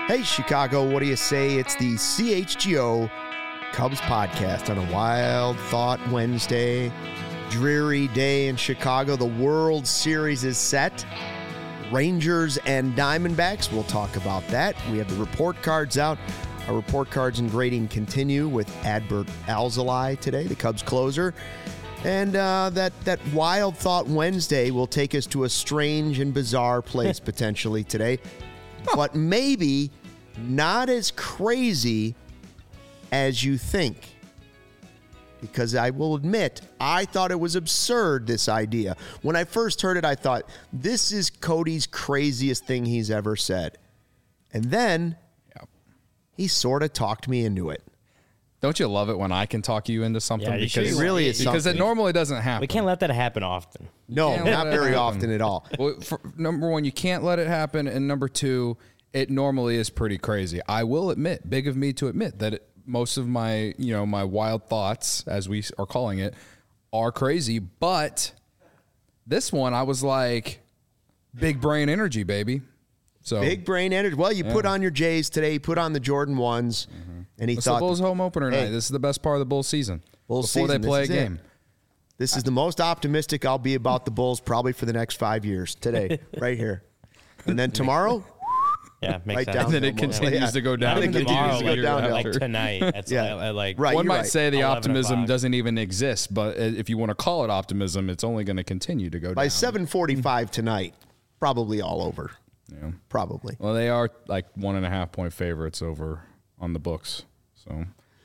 Hey, Chicago, what do you say? It's the CHGO Cubs podcast on a Wild Thought Wednesday. Dreary day in Chicago. The World Series is set. Rangers and Diamondbacks. We'll talk about that. We have the report cards out. Our report cards and grading continue with Adbert Alzolay today, the Cubs closer. And that Wild Thought Wednesday will take us to a strange and bizarre place potentially today. But maybe not as crazy as you think. Because I will admit, I thought it was absurd, this idea. When I first heard it, I thought, this is Cody's craziest thing he's ever said. And then he sort of talked me into it. Don't you love it when I can talk you into something? Yeah, because it really is because something. it normally doesn't happen. We can't let that happen often. No, not very often at all. Well, number one, you can't let it happen, and number two, it normally is pretty crazy. I will admit, big of me to admit that most of my, my wild thoughts, as we are calling it, are crazy. But this one, I was like, big brain energy, baby. So Big brain energy. Well, you put on your Jays today, you put on the Jordan 1s, and he it's thought, the Bulls home opener hey, night. This is the best part of the Bulls season. Bulls before season, they play a this is it. game. This is the most optimistic I'll be about the Bulls probably for the next 5 years today, right here. And then tomorrow, Yeah, makes right sense. down. And then it almost. continues to go down. Not even It continues tomorrow, to go like, downhill. like tonight. It's Yeah. like Right. One you're might say the 11 optimism o'clock. doesn't even exist, but if you want to call it optimism, it's only going to continue to go By down. 7:45 tonight, probably all over. Yeah. Probably. Well, they are like 1.5 point favorites over on the books. So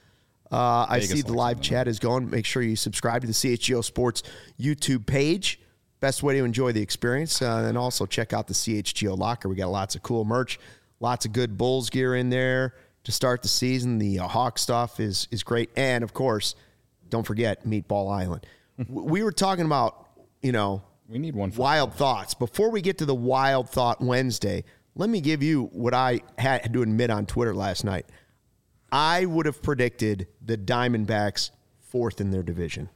I Vegas see the likes live them. chat is going. Make sure you subscribe to the CHGO Sports YouTube page. Best way to enjoy the experience. And also check out the CHGO Locker. We got lots of cool merch, lots of good Bulls gear in there to start the season. The Hawk stuff is great. And, of course, don't forget Meatball Island. We were talking about, we need one. wild thoughts. Before we get to the Wild Thought Wednesday, let me give you what I had to admit on Twitter last night. I would have predicted the Diamondbacks fourth in their division.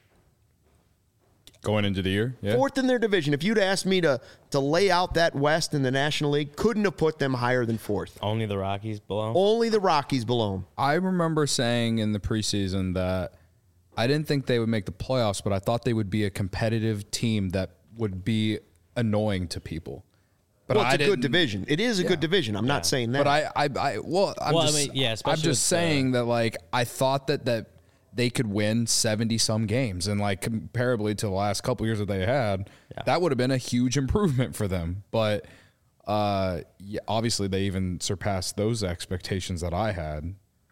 Going into the year. Yeah. Fourth in their division. If you'd asked me to lay out that West in the National League, couldn't have put them higher than fourth. only the Rockies below. Only the Rockies below them. I remember saying in the preseason that I didn't think they would make the playoffs, but I thought they would be a competitive team that would be annoying to people. But Well, it's I a good didn't- division. It is a good division. I'm not saying that. But I'm especially just with saying that like I thought that they could win 70 some games, and like comparably to the last couple years that they had, that would have been a huge improvement for them. But obviously they even surpassed those expectations that I had.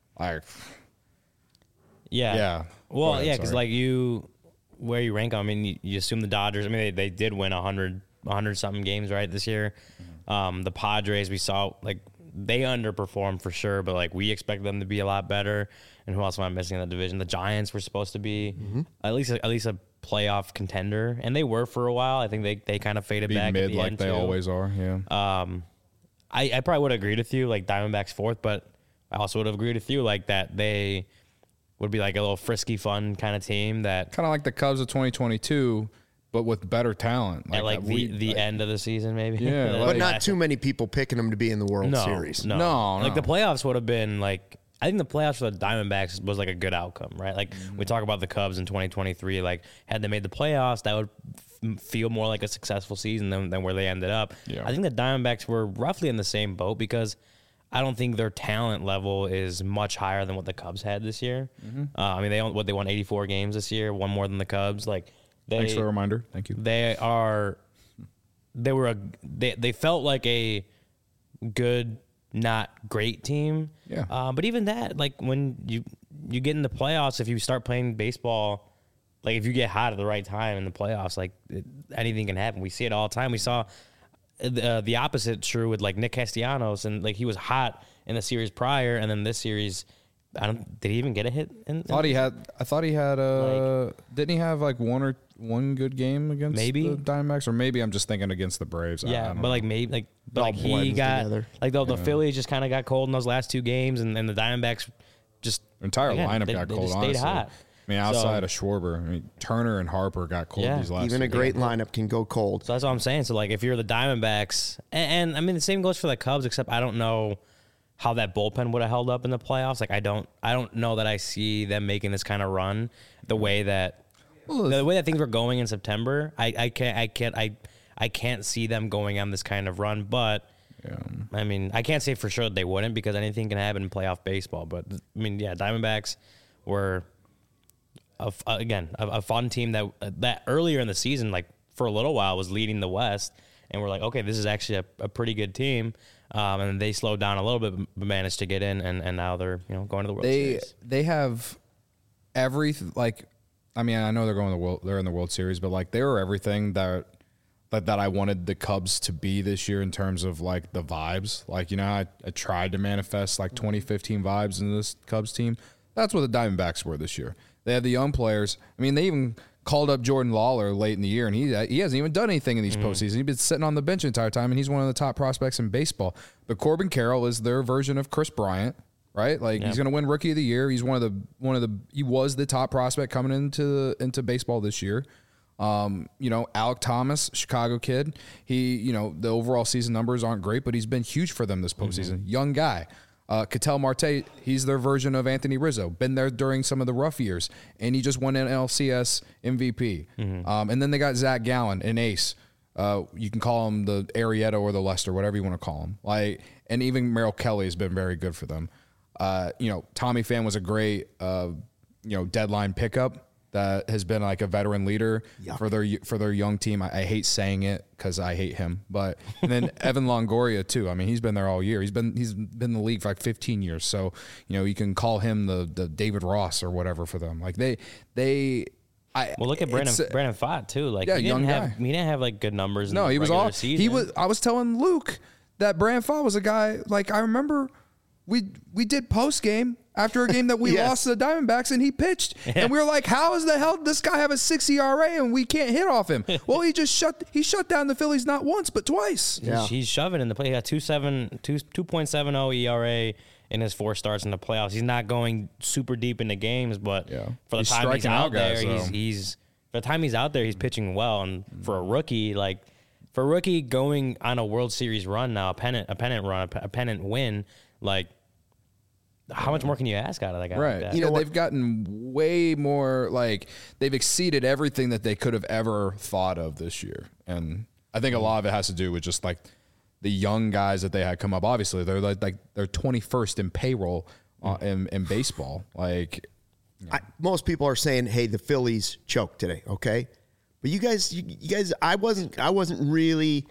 Yeah. Go Well, ahead, yeah, because sorry. where you rank, I mean, you assume the Dodgers. I mean, they did win 100 something games, right, this year. The Padres, we saw, like, they underperformed for sure, but, like, we expect them to be a lot better. And who else am I missing in that division? The Giants were supposed to be at least a playoff contender, and they were for a while. I think they kind of faded Be back mid at the like end, they too. always are. Yeah. I probably would have agreed with you, like Diamondbacks fourth, but I also would have agreed with you, like that they would be like a little frisky, fun kind of team that Kind of like the Cubs of 2022, but with better talent. at like the end of the season, maybe. Yeah, Like, but like- not too many people picking them to be in the World Series. No. Like No. the playoffs would have been like, I think the playoffs for the Diamondbacks was like a good outcome, right? Like we talk about the Cubs in 2023, like had they made the playoffs, that would feel more like a successful season than where they ended up. Yeah. I think the Diamondbacks were roughly in the same boat because I don't think their talent level is much higher than what the Cubs had this year. I mean, they won 84 games this year, one more than the Cubs. Like Thanks for the reminder. Thank you. they felt like a good, not great team. Yeah. But even that, like when you get in the playoffs, if you start playing baseball, like if you get hot at the right time in the playoffs, like anything can happen. We see it all the time. We saw the opposite true with like Nick Castellanos, and like he was hot in the series prior, and then this series, did he even get a hit? I thought he had. Didn't he have like one good game against Maybe. the Diamondbacks, or maybe I'm just thinking against the Braves. I Yeah, don't but know. like maybe like, but all like he blends got together. like the Phillies just kind of got cold in those last two games, and the Diamondbacks just the entire again, lineup they got cold. just stayed Honestly, hot. I mean, outside of Schwarber, I mean Turner and Harper got cold Yeah. these last. Even a two great games. lineup can go cold. So that's what I'm saying. So like if you're the Diamondbacks, and I mean the same goes for the Cubs, except I don't know how that bullpen would have held up in the playoffs. Like I don't know that I see them making this kind of run the way that things were going in September. I can't see them going on this kind of run, but I mean, I can't say for sure that they wouldn't because anything can happen in playoff baseball. But I mean, yeah, Diamondbacks were a fun team that earlier in the season, like for a little while, was leading the West, and we're like, okay, this is actually a pretty good team. And they slowed down a little bit, but managed to get in, and now they're going to the World Series. They have like, I mean, I know they're in the World Series, but like they were everything that I wanted the Cubs to be this year in terms of like the vibes. Like, I tried to manifest like 2015 vibes in this Cubs team. That's what the Diamondbacks were this year. They had the young players. I mean, they even called up Jordan Lawler late in the year, and he hasn't even done anything in these postseasons. He's been sitting on the bench the entire time, and he's one of the top prospects in baseball. But Corbin Carroll is their version of Chris Bryant, right? Like he's going to win Rookie of the Year. He's he was the top prospect coming into baseball this year. Alek Thomas, Chicago kid. He, the overall season numbers aren't great, but he's been huge for them this postseason. Young guy. Ketel Marte, he's their version of Anthony Rizzo. Been there during some of the rough years, and he just won an NLCS MVP. And then they got Zach Gallen, an ace. You can call him the Arrieta or the Lester, whatever you want to call him. And even Merrill Kelly has been very good for them. Tommy Pham was a great, deadline pickup that has been like a veteran leader for their young team. I hate saying it because I hate him, but and then Evan Longoria too. I mean, he's been there all year. He's been in the league for like 15 years. So you can call him the David Ross or whatever for them. Like look at Brandon Pfaadt too. Like he didn't have like good numbers. No, he was all season. I was telling Luke that Brandon Pfaadt was a guy. Like I remember we did post game after a game that we lost to the Diamondbacks, and he pitched. And we were like, how is the hell did this guy have a 6 ERA and we can't hit off him? Well, he shut down the Phillies not once, but twice. Yeah. He's shoving in the play. He got 2.70 ERA in his 4 starts in the playoffs. He's not going super deep into games, but for the time he's out there, he's for the time he's out there, he's pitching well. And for a rookie, going on a World Series run now, a pennant win, like, how much more can you ask out of that guy? Right. Like that? They've gotten way more, like, they've exceeded everything that they could have ever thought of this year. And I think a lot of it has to do with just, like, the young guys that they had come up. Obviously, they're they're 21st in payroll in baseball. Like, most people are saying, hey, the Phillies choked today, okay? But you guys, I wasn't going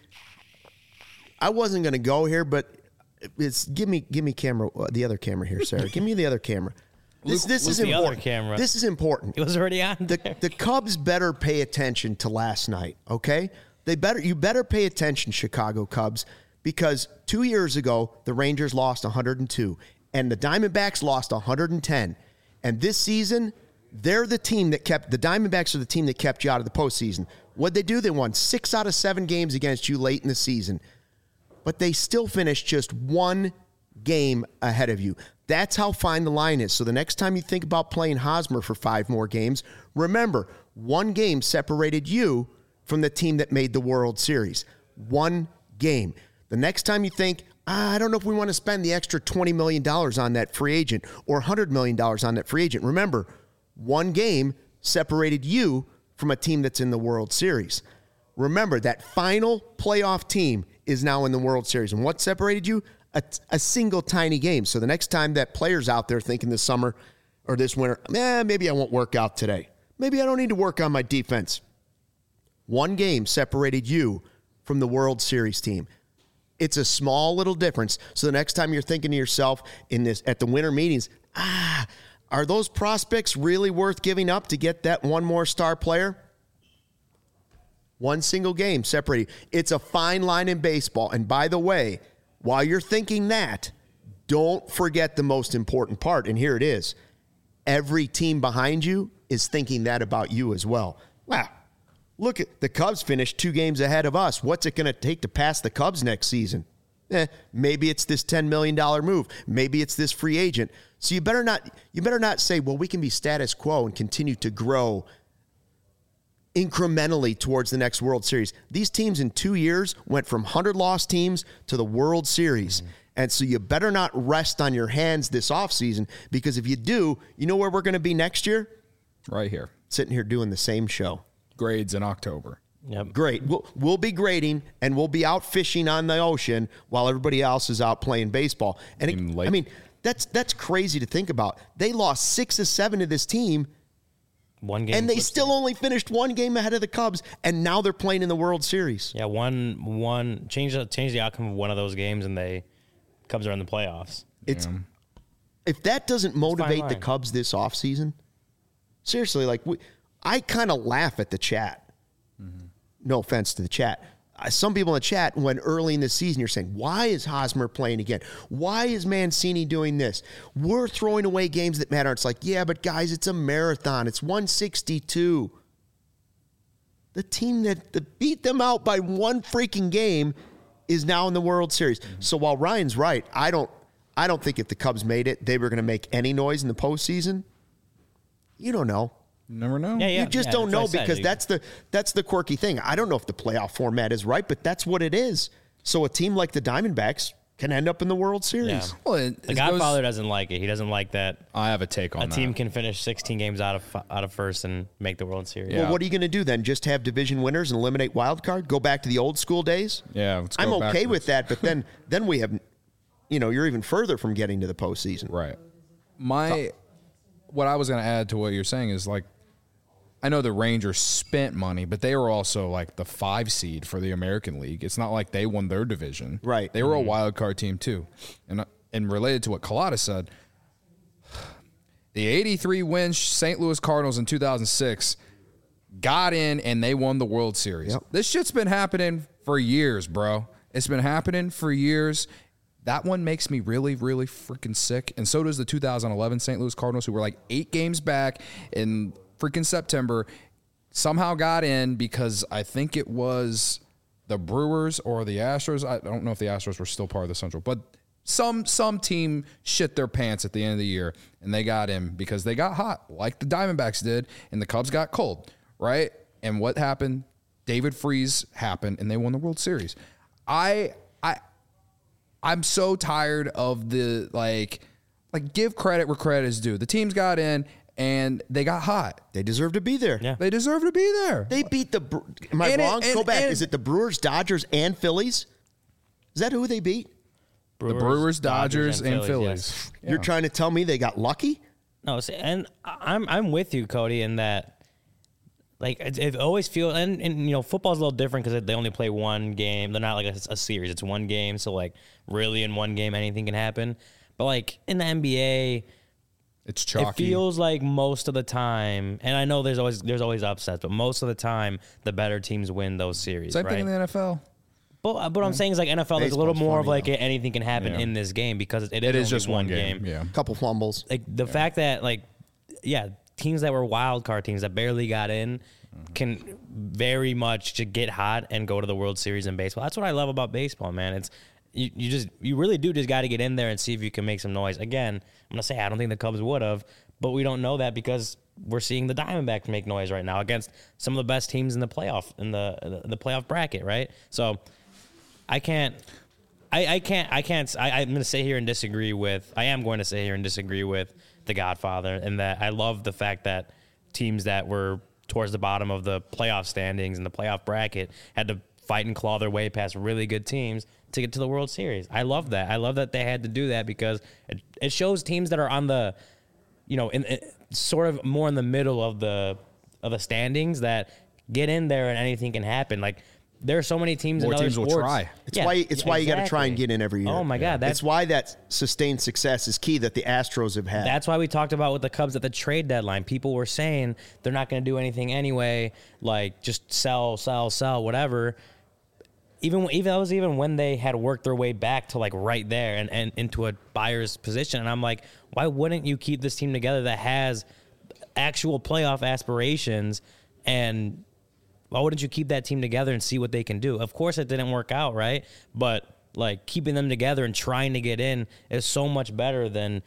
to go here, but it's give me camera, the other camera here, Sarah. Give me the other camera. This is important. Other camera. This is important. It was already on. The Cubs better pay attention to last night, okay? You better pay attention, Chicago Cubs, because 2 years ago the Rangers lost 102 and the Diamondbacks lost 110. And this season, they're the team that the Diamondbacks are the team that kept you out of the postseason. What'd they do? They won 6 out of 7 games against you late in the season. But they still finished just 1 game ahead of you. That's how fine the line is. So the next time you think about playing Hosmer for 5 more games, remember, 1 game separated you from the team that made the World Series. 1 game. The next time you think, I don't know if we want to spend the extra $20 million on that free agent or $100 million on that free agent. Remember, 1 game separated you from a team that's in the World Series. Remember, that final playoff team is now in the World Series. And what separated you? A single tiny game. So the next time that player's out there thinking this summer or this winter, maybe I won't work out today. Maybe I don't need to work on my defense. 1 game separated you from the World Series team. It's a small little difference. So the next time you're thinking to yourself at the winter meetings, are those prospects really worth giving up to get that 1 more star player? 1 single game separated. It's a fine line in baseball. And by the way, while you're thinking that, don't forget the most important part. And here it is. Every team behind you is thinking that about you as well. Wow. Look at the Cubs finished 2 games ahead of us. What's it going to take to pass the Cubs next season? Maybe it's this $10 million move. Maybe it's this free agent. So you better not say, well, we can be status quo and continue to grow incrementally towards the next World Series. These teams in 2 years went from 100-loss teams to the World Series. And so you better not rest on your hands this offseason, because if you do, you know where we're going to be next year? Right here. Sitting here doing the same show. Grades in October. Yep. Great. We'll be grading, and we'll be out fishing on the ocean while everybody else is out playing baseball. And I mean, that's crazy to think about. They lost 6 of 7 to this team. One game. And they still only finished 1 game ahead of the Cubs, and now they're playing in the World Series. Yeah, one change the outcome of one of those games, and Cubs are in the playoffs. If that doesn't motivate the Cubs this offseason, seriously, like I kind of laugh at the chat. No offense to the chat. Some people in the chat, when early in the season, you're saying, why is Hosmer playing again? Why is Mancini doing this? We're throwing away games that matter. It's like, yeah, but guys, it's a marathon. It's 162. The team that beat them out by 1 freaking game is now in the World Series. So while Ryan's right, I don't think if the Cubs made it, they were going to make any noise in the postseason. You don't know. Never know. You just don't know, because that's the quirky thing. I don't know if the playoff format is right, but that's what it is. So a team like the Diamondbacks can end up in the World Series. Yeah. Well, the Godfather doesn't like it. He doesn't like that. I have a take on that. A team can finish 16 games out of first and make the World Series. Well, what are you going to do then? Just have division winners and eliminate wild card? Go back to the old school days? Yeah, let's go I'm okay backwards. with that, but then we have, you're even further from getting to the postseason. Right. What I was going to add to what you're saying is, like, I know the Rangers spent money, but they were also like the 5 seed for the American League. It's not like they won their division. Right. They were a wild card team too. And related to what Collada said, the 83-win St. Louis Cardinals in 2006 got in and they won the World Series. Yep. This shit's been happening for years, bro. It's been happening for years. That one makes me really, really freaking sick. And so does the 2011 St. Louis Cardinals, who were like 8 games back in freaking September, somehow got in because I think it was the Brewers or the Astros. I don't know if the Astros were still part of the Central, but some team shit their pants at the end of the year, and they got in because they got hot, like the Diamondbacks did, and the Cubs got cold, right? And what happened? David Freese happened, and they won the World Series. I'm so tired of the like give credit where credit is due. The teams got in and they got hot. They deserve to be there. Yeah. They deserve to be there. They beat am I wrong? Go back. Is it the Brewers, Dodgers, and Phillies? Is that who they beat? The Brewers, Dodgers, and Phillies. Yes. Yeah. You're trying to tell me they got lucky? No, and I'm with you, Cody, in that. Like, it always feels, and football's a little different because they only play 1 game. They're not like a series. It's 1 game. So, like, really in 1 game, anything can happen. But, like, in the NBA, it's chalky. It feels like most of the time, and I know there's always upsets, but most of the time, the better teams win those series, Same right? thing in the NFL. But what I'm saying is, like, NFL, there's a little more of, like, anything can happen in this game because it is just one 1 game. Yeah. Couple fumbles. Like, the fact that, like, teams that were wild card teams that barely got in can very much just get hot and go to the World Series in baseball. That's what I love about baseball, man. It's you really do just got to get in there and see if you can make some noise. Again, I'm gonna say I don't think the Cubs would have, but we don't know that because we're seeing the Diamondbacks make noise right now against some of the best teams in the playoff the playoff bracket, right? So I'm going to sit here and disagree with. I am going to sit here and disagree with the Godfather, in that I love the fact that teams that were towards the bottom of the playoff standings and the playoff bracket had to fight and claw their way past really good teams to get to the World Series. I love that. I love that they had to do that because it shows teams that are on the, in sort of more in the middle of the standings that get in there and anything can happen. Like, there are so many teams. More in other teams sports. will try. It's why you got to try and get in every year. Oh my God, that's why that sustained success is key that the Astros have had. That's why we talked about with the Cubs at the trade deadline. People were saying they're not going to do anything anyway, like just sell, whatever. Even when they had worked their way back to like right there and into a buyer's position. And I'm like, why wouldn't you keep this team together that has actual playoff aspirations, and why wouldn't you keep that team together and see what they can do? Of course it didn't work out, right? But like keeping them together and trying to get in is so much better than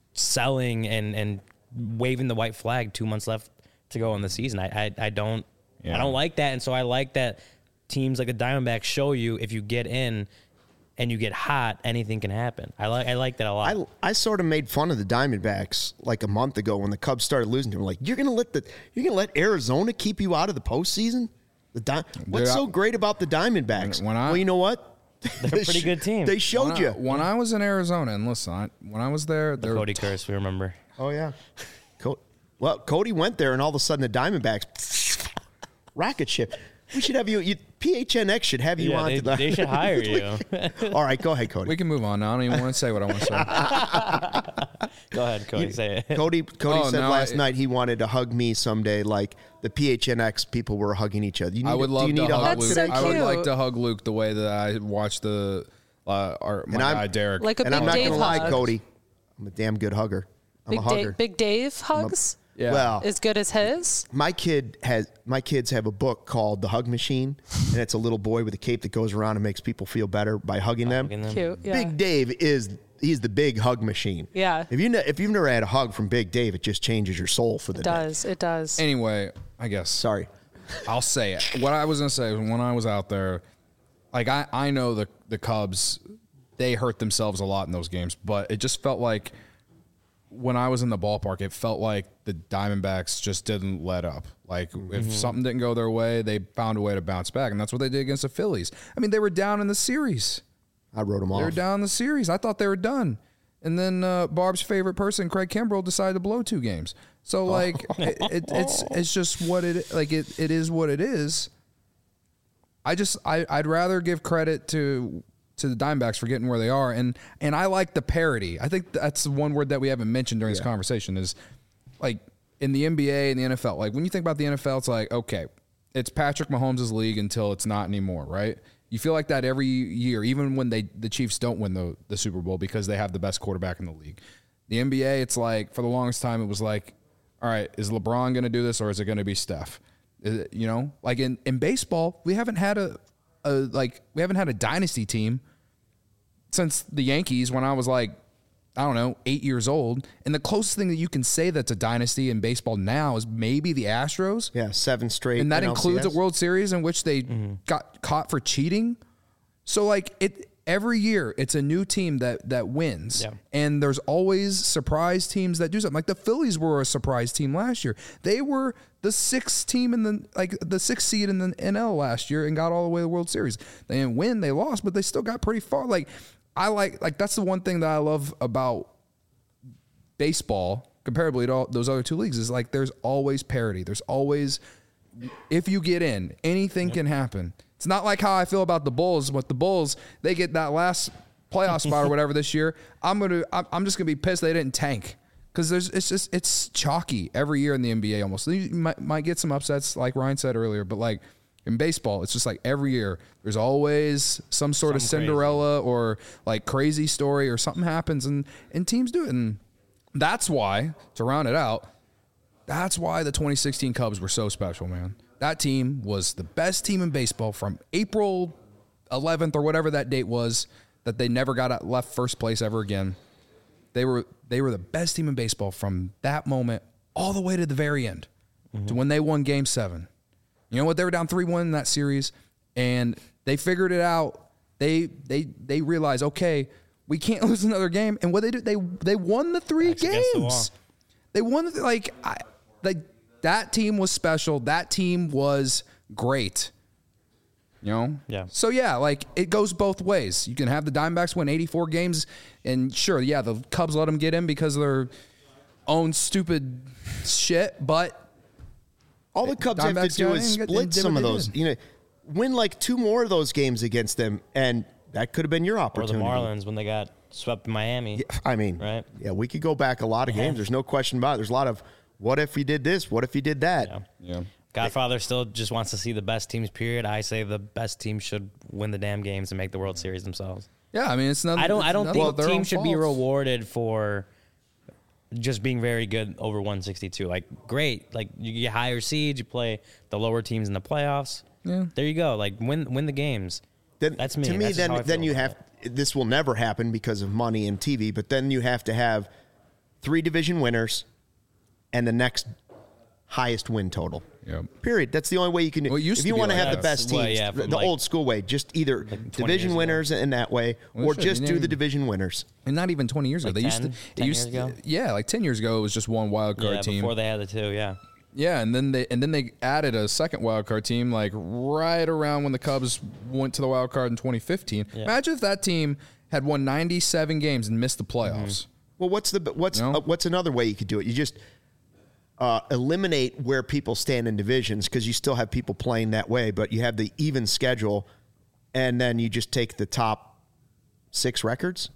selling and waving the white flag 2 months left to go in the season. I don't Yeah. I don't like that, and so I like that teams like the Diamondbacks show you if you get in and you get hot, anything can happen. I like that a lot. I sort of made fun of the Diamondbacks like a month ago when the Cubs started losing to them. Like, you're gonna let Arizona keep you out of the postseason? What's so great about the Diamondbacks? Well, you know what? They're a pretty good team. They showed you. When I was in Arizona, and listen, when I was there, the Cody curse, we remember. Oh yeah. Well, Cody went there, and all of a sudden the Diamondbacks rocket ship. We should have you. PHNX should have you on. They should hire you. All right, go ahead, Cody. We can move on now. I don't even want to say what I want to say. Go ahead, Cody. Say it. Cody said last night he wanted to hug me someday, like the PHNX people were hugging each other. I would love to hug Luke. So I would cute. like to hug Luke the way that I watched my guy Derek. Like a And Big I'm not Dave going to lie, hug. Cody. I'm a damn good hugger. I'm a hugger. Big Dave hugs? Yeah. Well, As good as his? my kids have a book called The Hug Machine, and it's a little boy with a cape that goes around and makes people feel better by hugging them. Cute, yeah. Big Dave he's the big hug machine. Yeah. If you've never had a hug from Big Dave, it just changes your soul for the day. It does. Anyway, I guess. Sorry. I'll say it. What I was going to say is when I was out there, like I know the Cubs, they hurt themselves a lot in those games, but it just felt like when I was in the ballpark, it felt like the Diamondbacks just didn't let up. Like if something didn't go their way, they found a way to bounce back, and that's what they did against the Phillies. I mean, they were down in the series. I wrote them off. They were down in the series. I thought they were done. And then Barb's favorite person, Craig Kimbrell, decided to blow 2 games. So like it's just what it is what it is. I'd rather give credit to the Diamondbacks for getting where they are, and I like the parity. I think that's the one word that we haven't mentioned during this conversation is like in the NBA and the NFL. Like when you think about the NFL, it's like okay, it's Patrick Mahomes' league until it's not anymore, right? You feel like that every year, even when the Chiefs don't win the Super Bowl because they have the best quarterback in the league. The NBA, it's like for the longest time, it was like, all right, is LeBron going to do this or is it going to be Steph? Like in baseball, we haven't had a dynasty team since the Yankees when I was like, I don't know, 8 years old. And the closest thing that you can say that's a dynasty in baseball now is maybe the Astros. Yeah, 7 straight. And that NLCS. includes a World Series in which they got caught for cheating. So like every year it's a new team that wins. Yeah. And there's always surprise teams that do something. Like the Phillies were a surprise team last year. They were the 6th team in the 6th seed in the NL last year and got all the way to the World Series. They didn't win, they lost, but they still got pretty far. Like I like that's the one thing that I love about baseball comparably to all those other 2 leagues is like there's always parity. There's always, if you get in, anything can happen. It's not like how I feel about the Bulls. But the Bulls, they get that last playoff spot or whatever this year. I'm just gonna be pissed they didn't tank because it's chalky every year in the NBA almost. You might get some upsets like Ryan said earlier, but like in baseball, it's just like every year there's always some sort of Cinderella or like crazy story or something happens and teams do it. And that's why, to round it out, that's why the 2016 Cubs were so special, man. That team was the best team in baseball from April 11th or whatever that date was that they never left first place ever again. They were the best team in baseball from that moment all the way to the very end to when they won Game 7. You know what? They were down 3-1 in that series, and they figured it out. They realized, okay, we can't lose another game. And what they did, they won the 3 games. They won that team was special. That team was great. You know? Yeah. So, yeah, like, it goes both ways. You can have the Diamondbacks win 84 games, and sure, yeah, the Cubs let them get in because of their own stupid shit, but all the Cubs have to do is split some of those. Win like 2 more of those games against them, and that could have been your opportunity. Or the Marlins when they got swept in Miami. Yeah, I mean, right? Yeah, we could go back a lot of games. There's no question about it. There's a lot of what if we did this? What if we did that? Yeah. Godfather still just wants to see the best teams, period. I say the best teams should win the damn games and make the World Series themselves. Yeah, I mean, it's not. I don't think teams should be fault. rewarded for just being very good over 162. Like, great. Like, you get higher seeds, you play the lower teams in the playoffs. Yeah. There you go. Like, win the games. That's me. To me, That's just how I then feel you about have. This will never happen because of money and TV. But then you have to have 3 division winners and the next highest win total. Yep. Period. That's the only way you can do. Well, it used if to you be want to like have the that. best teams, Well, yeah, the from like- old school way, just either 20 division years ago. winners in that way, Well, or shit, just you do named- the division winners. And not even 20 years ago. Like They used 10 to. 10 It used years ago? Yeah, like 10 years ago, it was just one wild card Yeah, team. before they had the two, yeah. Yeah, and then they added a second wild card team like right around when the Cubs went to the wild card in 2015. Yeah. Imagine if that team had won 97 games and missed the playoffs. Well, what's another way you could do it? You just eliminate where people stand in divisions because you still have people playing that way, but you have the even schedule, and then you just take the top 6 records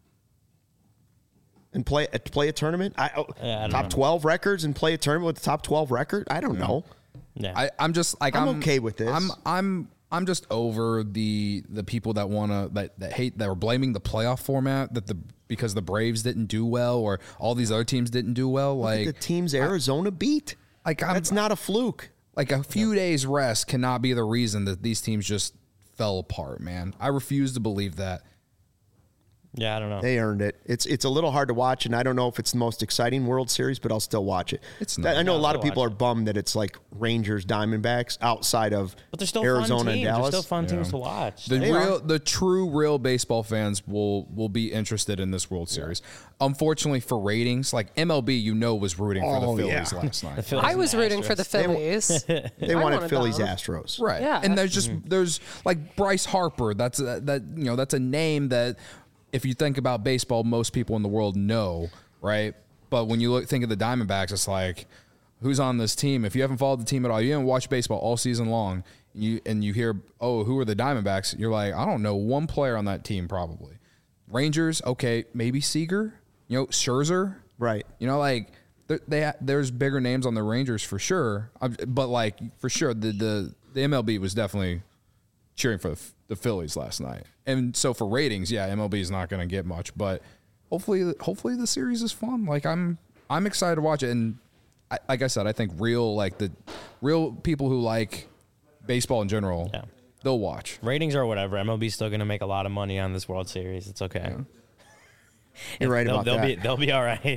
and play a tournament. I don't Top know. 12 records and play a tournament with the top 12 record. I don't know. Yeah. I'm just like I'm okay with this. I'm just over the people that wanna that hate that are blaming the playoff format because the Braves didn't do well or all these other teams didn't do well. Look at Like the teams Arizona beat. That's not a fluke. Like a few days rest cannot be the reason that these teams just fell apart, man. I refuse to believe that. Yeah, I don't know. They earned it. It's a little hard to watch, and I don't know if it's the most exciting World Series, but I'll still watch it. It's not. I know a lot of I'll people are watch bummed that it's like Rangers, Diamondbacks outside of But they're still Arizona fun and teams. Dallas. They're still fun teams to watch. The true real baseball fans will be interested in this World Series. Unfortunately for ratings, like MLB, was rooting for the Phillies last night. Phillies I and was rooting for Astros. the Phillies. They I wanted Phillies them. Astros. Right. Yeah. And there's like Bryce Harper. That's a name that if you think about baseball, most people in the world know, right? But when you think of the Diamondbacks, it's like, who's on this team? If you haven't followed the team at all, you haven't watched baseball all season long, you hear, oh, who are the Diamondbacks? You're like, I don't know one player on that team probably. Rangers, okay, maybe Seager, Scherzer, Right. there's bigger names on the Rangers for sure, but like for sure the MLB was definitely cheering for the Phillies last night, and so for ratings, yeah, MLB is not going to get much, but hopefully the series is fun. Like I'm excited to watch it, and like I said, I think the real people who like baseball in general, Yeah. they'll watch. Ratings or whatever. MLB's still going to make a lot of money on this World Series. It's okay. You're right about that. They'll be all right.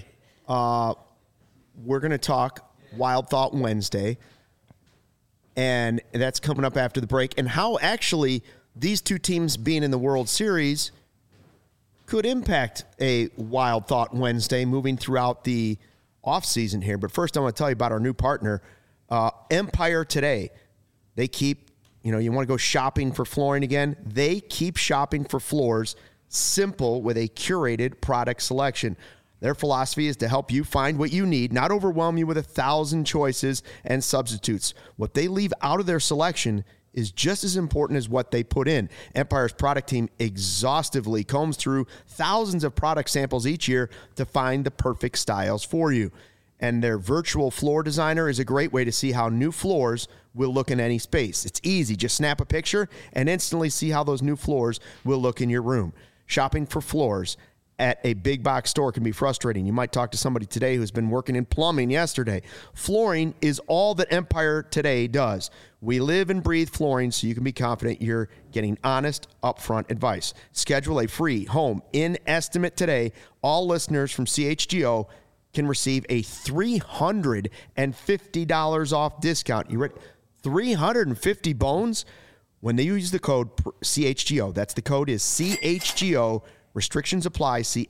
We're going to talk Wild Thought Wednesday, and that's coming up after the break, and how actually these two teams being in the World Series could impact a Wild Thought Wednesday moving throughout the offseason here. But first, I want to tell you about our new partner, Empire Today. They keep, you want to go shopping for flooring again? They keep shopping for floors simple with a curated product selection. Their philosophy is to help you find what you need, not overwhelm you with 1,000 choices and substitutes. What they leave out of their selection is just as important as what they put in. Empire's product team exhaustively combs through thousands of product samples each year to find the perfect styles for you. And their virtual floor designer is a great way to see how new floors will look in any space. It's easy. Just snap a picture and instantly see how those new floors will look in your room. Shopping for floors at a big box store can be frustrating. You might talk to somebody today who's been working in plumbing yesterday. Flooring is all that Empire Today does. We live and breathe flooring, so you can be confident you're getting honest, upfront advice. Schedule a free home in-estimate today. All listeners from CHGO can receive a $350 off discount. You ready? 350 bones when they use the code CHGO. That's the code is CHGO. Restrictions apply. See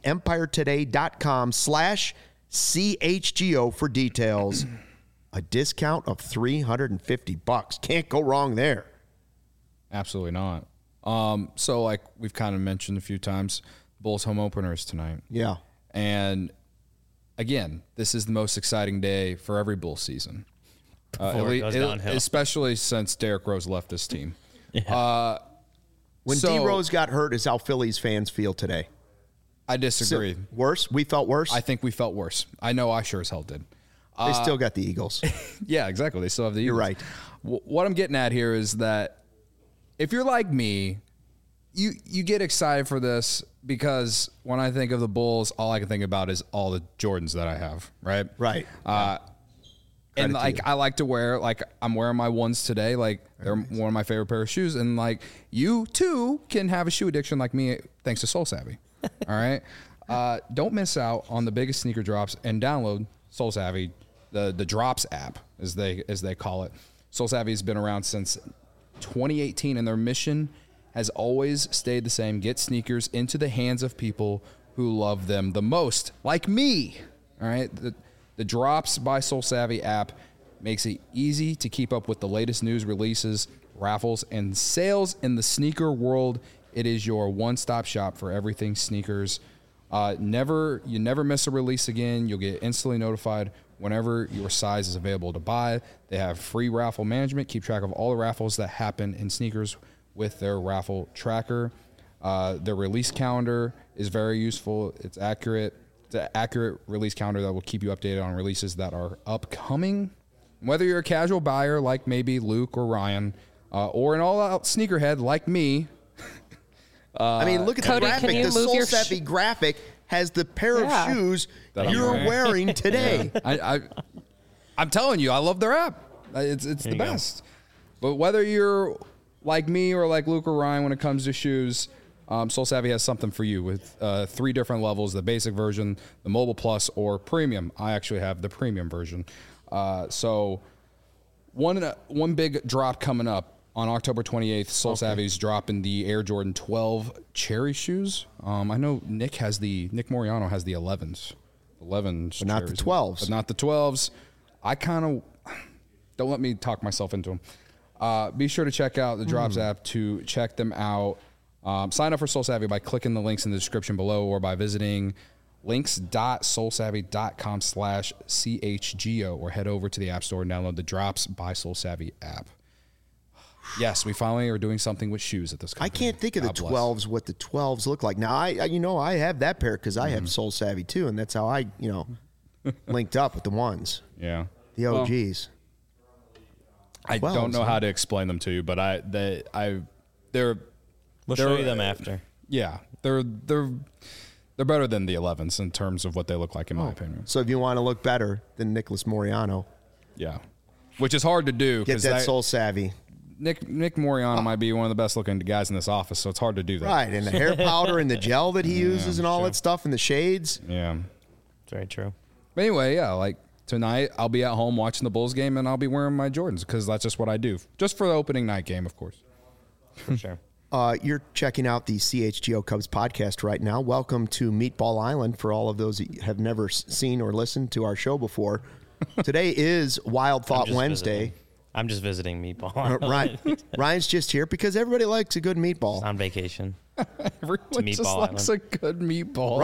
empiretoday.com/CHGO for details. A discount of $350. Can't go wrong there. Absolutely not. So like we've kind of mentioned a few times, Bulls home openers tonight. Yeah. And again, this is the most exciting day for every Bull season. Before it goes downhill. Especially since Derrick Rose left this team. When So- D Rose got hurt is how Phillies fans feel today. I disagree. Worse? We felt worse? I think we felt worse. I know I sure as hell did. They still got the Eagles. Yeah, exactly. They still have the Eagles. You're right. What I'm getting at here is that if you're like me, you get excited for this because when I think of the Bulls, all I can think about is all the Jordans that I have, right? Right. And Credit to like you. I like to wear, like I'm wearing my ones today, like they're one of my favorite pair of shoes, and like you too can have a shoe addiction like me thanks to Soul Savvy. All right, don't miss out on the biggest sneaker drops and download Soul Savvy. the Drops app, as they call it. Soul Savvy has been around since 2018, and their mission has always stayed the same: get sneakers into the hands of people who love them the most, like me. All right, the Drops by Soul Savvy app makes it easy to keep up with the latest news, releases, raffles, and sales in the sneaker world. It is your one-stop shop for everything sneakers. You never miss a release again. You'll get instantly notified whenever your size is available to buy. They have free raffle management. Keep track of all the raffles that happen in sneakers with their raffle tracker. Their release calendar is very useful. It's accurate. It's an accurate release calendar that will keep you updated on releases that are upcoming. Whether you're a casual buyer like maybe Luke or Ryan, or an all-out sneakerhead like me. I mean, look at Cody, the can graphic. you The move Soul your Savvy graphic has the pair Yeah. of shoes That I'm you're wearing today. I'm telling you, I love their app. It's the you go. best. But whether you're like me or like Luke or Ryan when it comes to shoes, Soul Savvy has something for you with 3 different levels: the basic version, the mobile plus, or premium. I actually have the premium version. So one big drop coming up on October 28th. Soul Savvy's dropping the Air Jordan 12 Cherry shoes. I know Nick Moriano has the 11s. 11s, But not the cherries, 12s. But not the 12s. I kind of don't let me talk myself into them. Be sure to check out the Drops app to check them out. Sign up for Soul Savvy by clicking the links in the description below or by visiting links.soulsavvy.com/CHGO or head over to the App Store and download the Drops by Soul Savvy app. Yes, we finally are doing something with shoes at this company. I can't think of the God bless. 12s, what the 12s look like. Now, I have that pair because I have Soul Savvy too, and that's how I, linked up with the ones, Yeah. the Well, OGs. I 12s, don't know huh? how to explain them to you, but they're We'll show you them after. yeah, they're better than the 11s in terms of what they look like in my opinion. So if you want to look better than Nicholas Moriano, Yeah. Which is hard to do get because that Soul Savvy. Nick Moriano might be one of the best looking guys in this office, so it's hard to do that. Right, and the hair powder and the gel that he uses and all that stuff and the shades. Yeah. It's very true. But anyway, yeah, like tonight I'll be at home watching the Bulls game and I'll be wearing my Jordans because that's just what I do. Just for the opening night game, of course. For sure. You're checking out the CHGO Cubs podcast right now. Welcome to Meatball Island for all of those that have never seen or listened to our show before. Today is Wild Thought Wednesday. I'm just visiting Meatball. Ryan's just here because everybody likes a good meatball. On vacation. Everyone just Meatball likes a good meatball.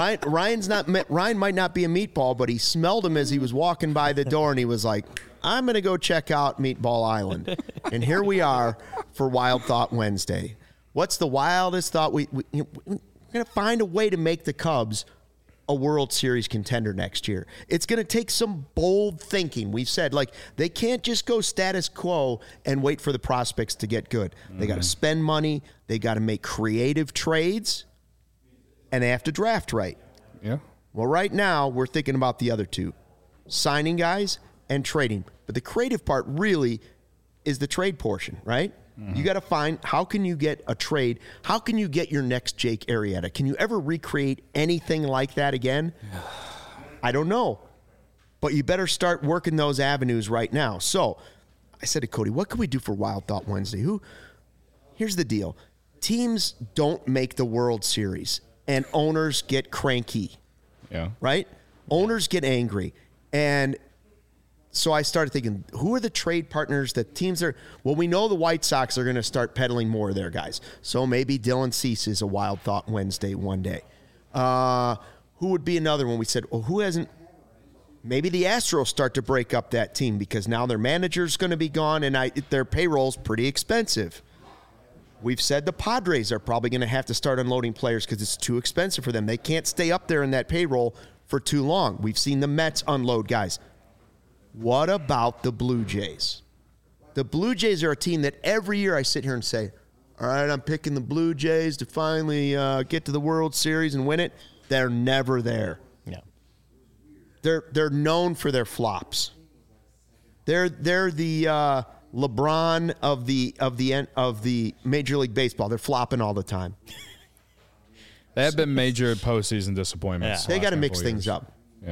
Ryan might not be a meatball, but he smelled him as he was walking by the door, and he was like, "I'm going to go check out Meatball Island." And here we are for Wild Thought Wednesday. What's the wildest thought? We're going to find a way to make the Cubs a World Series contender next year. It's going to take some bold thinking. We've said, they can't just go status quo and wait for the prospects to get good. They got to spend money. They got to make creative trades, and they have to draft right. Yeah. Well, right now, we're thinking about the other two, signing guys and trading. But the creative part really is the trade portion, right? You got to find, how can you get a trade? How can you get your next Jake Arrieta? Can you ever recreate anything like that again? I don't know. But you better start working those avenues right now. So I said to Cody, what can we do for Wild Thought Wednesday? Here's the deal. Teams don't make the World Series, and owners get cranky. Yeah. Right? Owners get angry. And so I started thinking, who are the trade partners that teams are? Well, we know the White Sox are going to start peddling more of their guys. So maybe Dylan Cease is a Wild Thought Wednesday one day. Who would be another one? We said, well, who hasn't? Maybe the Astros start to break up that team because now their manager's going to be gone and their payroll's pretty expensive. We've said the Padres are probably going to have to start unloading players because it's too expensive for them. They can't stay up there in that payroll for too long. We've seen the Mets unload guys. What about the Blue Jays? The Blue Jays are a team that every year I sit here and say, all right, I'm picking the Blue Jays to finally get to the World Series and win it. They're never there. Yeah. They're known for their flops. They're the LeBron of the Major League Baseball. They're flopping all the time. They have been major postseason disappointments. They got to last mix couple things years. up. Yeah.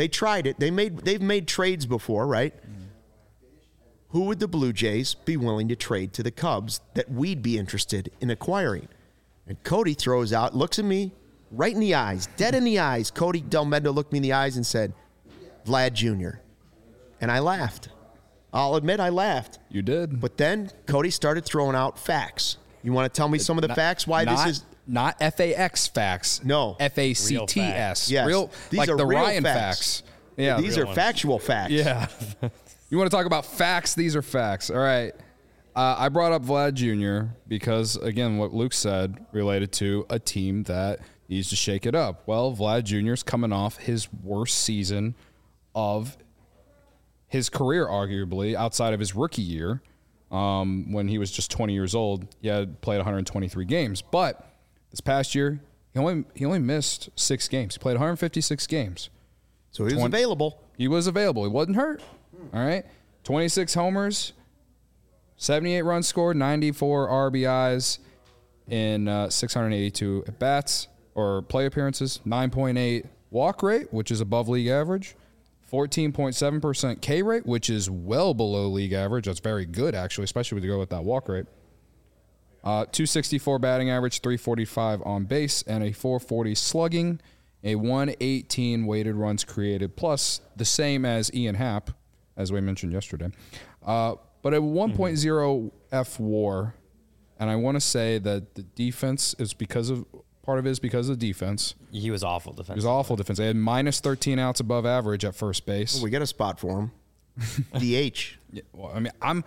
They tried it. They've made trades before, right? Who would the Blue Jays be willing to trade to the Cubs that we'd be interested in acquiring? And Cody throws out, looks at me right in the eyes, dead in the eyes. Cody Del Mendo looked me in the eyes and said, Vlad Jr. And I laughed. I'll admit I laughed. You did. But then Cody started throwing out facts. You want to tell me some of the facts why this is... Not FAX facts. No. FACTS. Yes. Real, These like are the real Ryan facts. Yeah. These are factual facts. Yeah. You want to talk about facts? These are facts. All right. I brought up Vlad Jr. because, again, what Luke said related to a team that needs to shake it up. Well, Vlad Jr. is coming off his worst season of his career, arguably, outside of his rookie year, when he was just 20 years old. He had played 123 games. But this past year, he only missed 6 games. He played 156 games. So he was available. He was available. He wasn't hurt. All right. 26 homers, 78 runs scored, 94 RBIs in 682 at-bats or play appearances, 9.8 walk rate, which is above league average, 14.7% K rate, which is well below league average. That's very good, actually, especially when you go with that walk rate. 264 batting average, 345 on base, and a 440 slugging, a 118 weighted runs created, plus the same as Ian Happ, as we mentioned yesterday. But a 1.0 F WAR, and I want to say that the defense is part of it is because of defense. He was awful defense. He was awful defense. They had minus 13 outs above average at first base. Well, we got a spot for him. DH. Yeah, well, I mean,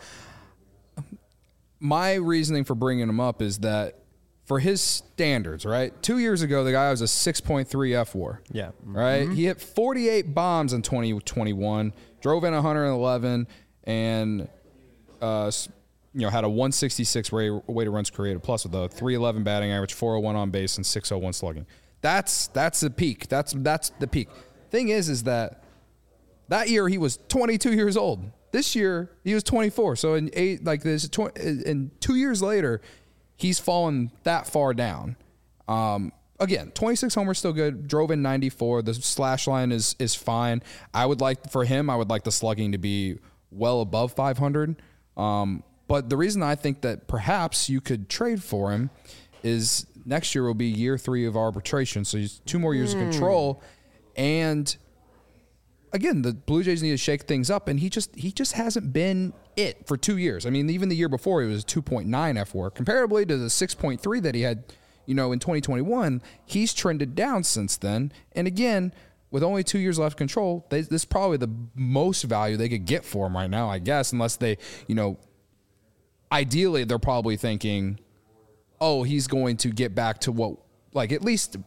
my reasoning for bringing him up is that for his standards, right? 2 years ago, the guy was a 6.3 F WAR. Yeah. Right? Mm-hmm. He hit 48 bombs in 2021, drove in 111, and had a 166 weighted runs created plus with a 311 batting average, 401 on base, and 601 slugging. That's the peak. That's the peak. Thing is that year he was 22 years old. This year he was 24. So in 2 years later, he's fallen that far down. Again, 26 homers still good. Drove in 94. The slash line is fine. I would like the slugging to be well above 500. But the reason I think that perhaps you could trade for him is next year will be year 3 of arbitration. So he's 2 more years of control. And again, the Blue Jays need to shake things up, and he just hasn't been it for 2 years. I mean, even the year before, he was 2.9 F WAR. Comparably to the 6.3 that he had, in 2021, he's trended down since then. And again, with only 2 years left control, this is probably the most value they could get for him right now, I guess, unless they, ideally they're probably thinking, oh, he's going to get back to what, like at least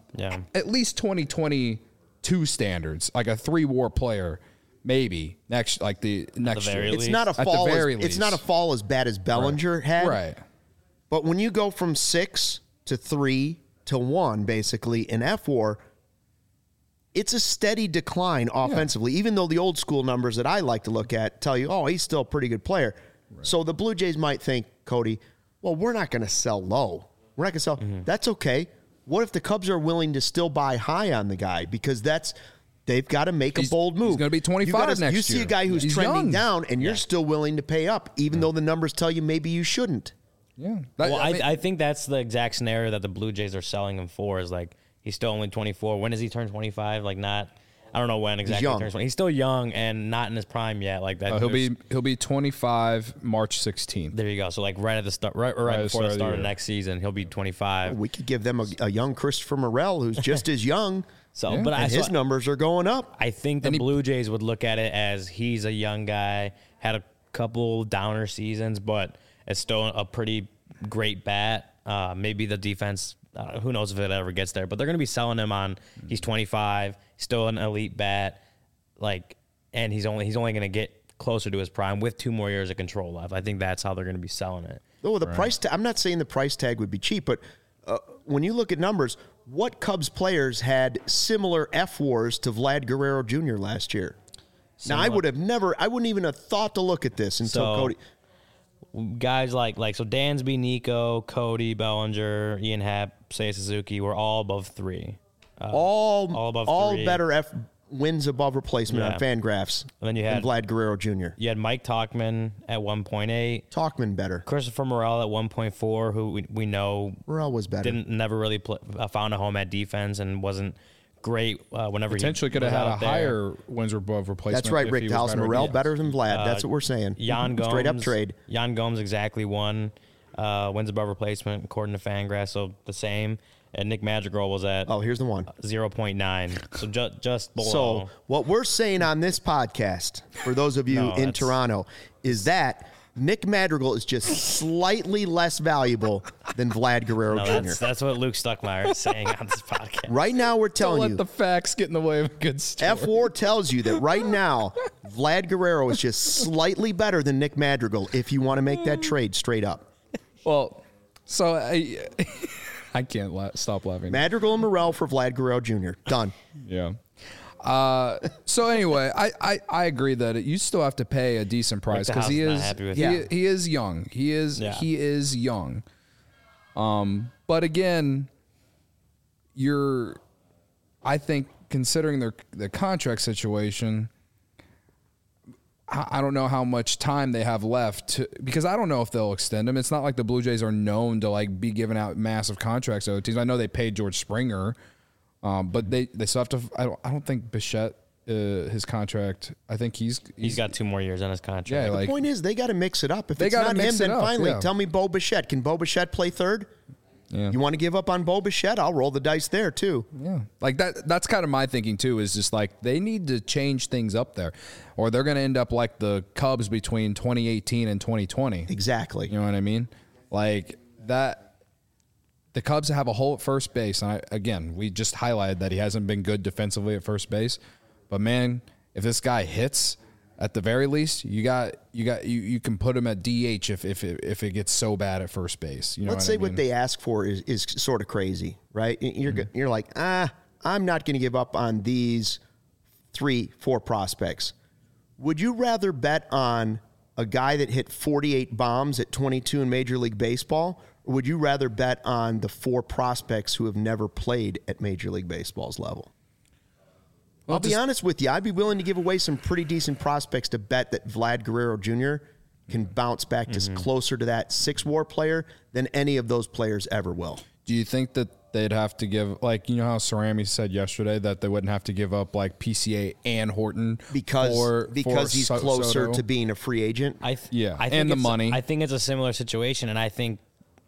2022 standards, like a 3 WAR player, maybe next year. It's not a fall. It's not a fall as bad as Bellinger had. Right. But when you go from 6 to 3 to 1, basically in F WAR, it's a steady decline offensively. Even though the old school numbers that I like to look at tell you, oh, he's still a pretty good player. Right. So the Blue Jays might think, Cody, well, we're not going to sell low. We're not going to sell. Mm-hmm. That's okay. What if the Cubs are willing to still buy high on the guy? Because they've got to make a bold move. He's going to be 25 next year. You see a guy who's trending young. down, and you're still willing to pay up, even though the numbers tell you maybe you shouldn't. Yeah. I think that's the exact scenario that the Blue Jays are selling him for, is like he's still only 24. When does he turn 25? I don't know when exactly he turns 20. He's still young and not in his prime yet. Like that. He'll be 25 March 16th. There you go. So like right at the start, right before the start of next season, he'll be 25. We could give them a young Christopher Morel who's just as young. His numbers are going up. I think the Blue Jays would look at it as he's a young guy, had a couple downer seasons, but it's still a pretty great bat. Maybe the defense, who knows if it ever gets there, but they're going to be selling him on he's 25, still an elite bat, and he's only going to get closer to his prime with 2 more years of control left. I think that's how they're going to be selling it. Oh, price I'm not saying the price tag would be cheap, but when you look at numbers, what Cubs players had similar F WARs to Vlad Guerrero Jr. last year? Now, I wouldn't even have thought to look at this until Cody. Guys like Dansby, Nico, Cody, Bellinger, Ian Happ, Seiya Suzuki were all above 3. All above 3. All better wins above replacement on Yeah. Fangraphs And then you than had Vlad Guerrero Jr. You had Mike Talkman at 1.8, Talkman better. Christopher Morel at 1.4, who we know Morel was better. never really found a home at defense and wasn't great whenever Potentially he could have was had a out there. higher wins above replacement. That's right, if Rick he was Dallas. better Morel than- better than Vlad. That's what we're saying. Jan Gomes, Straight up trade. Jan Gomes exactly one wins above replacement according to Fangraphs, so the same. And Nick Madrigal was at Oh, here's the one. 0.9, so just below. So what we're saying on this podcast, for those of you No, in that's- Toronto, is that Nick Madrigal is just slightly less valuable than Vlad Guerrero no, Jr. that's what Luke Stuckmeyer is saying on this podcast. Right now, we're Don't telling let you. the facts get in the way of a good story. F4 tells you that right now, Vlad Guerrero is just slightly better than Nick Madrigal if you want to make that trade straight up. Well, so I can't stop laughing. Madrigal and Morel for Vlad Guerrero Jr. Done. Yeah. So anyway, I agree that you still have to pay a decent price because he House is is not happy with he is young. He is young. But again, I think considering the contract situation, I don't know how much time they have left because I don't know if they'll extend him. It's not like the Blue Jays are known to like be giving out massive contracts to teams. I know they paid George Springer, but they still have to. I don't think Bichette his contract. I think he's He's got 2 more years on his contract. Yeah, like Point is, they got to mix it up. If They it's gotta not him, mix it then up, finally yeah. tell me Bo Bichette. Can Bo Bichette play third? Yeah. You want to give up on Bo Bichette? I'll roll the dice there too. Yeah, like that's kind of my thinking too. Is just like they need to change things up there, or they're going to end up like the Cubs between 2018 and 2020. Exactly. You know what I mean? Like that. The Cubs have a hole at first base, and again, we just highlighted that he hasn't been good defensively at first base. But man, if this guy hits, at the very least, you can put him at DH if it gets so bad at first base. You know Let's say what they ask for is sort of crazy, right? You're like, I'm not going to give up on these 3-4 prospects. Would you rather bet on a guy that hit 48 bombs at 22 in Major League Baseball, or would you rather bet on the 4 prospects who have never played at Major League Baseball's level? I'll be honest with you. I'd be willing to give away some pretty decent prospects to bet that Vlad Guerrero Jr. can bounce back just closer to that 6-WAR player than any of those players ever will. Do you think that they'd have to give, like, you know how Cerami said yesterday that they wouldn't have to give up like PCA and Horton Because he's closer Soto? to being a free agent? I think and the money. I think it's a similar situation, and I think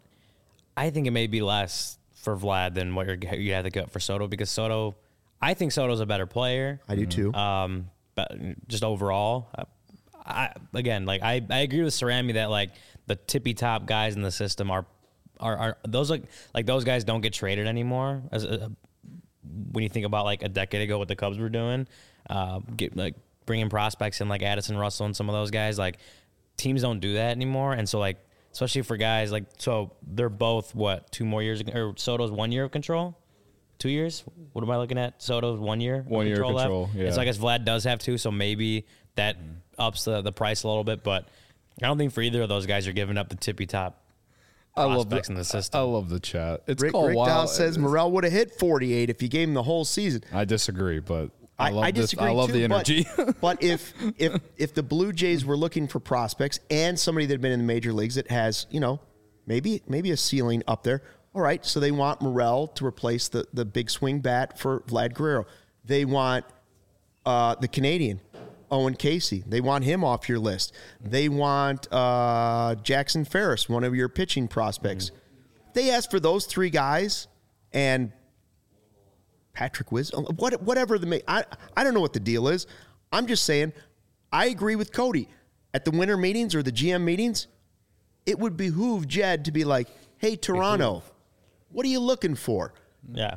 it may be less for Vlad than what you have to get for Soto, because I think Soto's a better player. I do too. But just overall, I agree with Cerami that like the tippy top guys in the system are those like those guys don't get traded anymore. When you think about like a decade ago what the Cubs were doing, bringing prospects in like Addison Russell and some of those guys, like teams don't do that anymore. And so like especially for guys like, so they're both 2 more years, or Soto's 1 year of control. 2 years? What am I looking at? Soto's 1 year. 1 year control. Left. Yeah. And so I guess Vlad does have 2, so maybe that ups the price a little bit. But I don't think for either of those guys you're giving up the tippy top prospects in the system. I love the chat. It's Rick called Wild. Dowd says Morel would have hit 48 if you gave him the whole season. I disagree, but I love I disagree I love too, the energy. But if the Blue Jays were looking for prospects and somebody that had been in the major leagues that has, maybe a ceiling up there. All right, so they want Morel to replace the big swing bat for Vlad Guerrero. They want the Canadian, Owen Casey. They want him off your list. They want Jackson Ferris, one of your pitching prospects. They ask for those 3 guys and Patrick Wisdom, whatever I don't know what the deal is. I'm just saying, I agree with Cody. At the winter meetings or the GM meetings, it would behoove Jed to be like, hey, Toronto, what are you looking for? Yeah.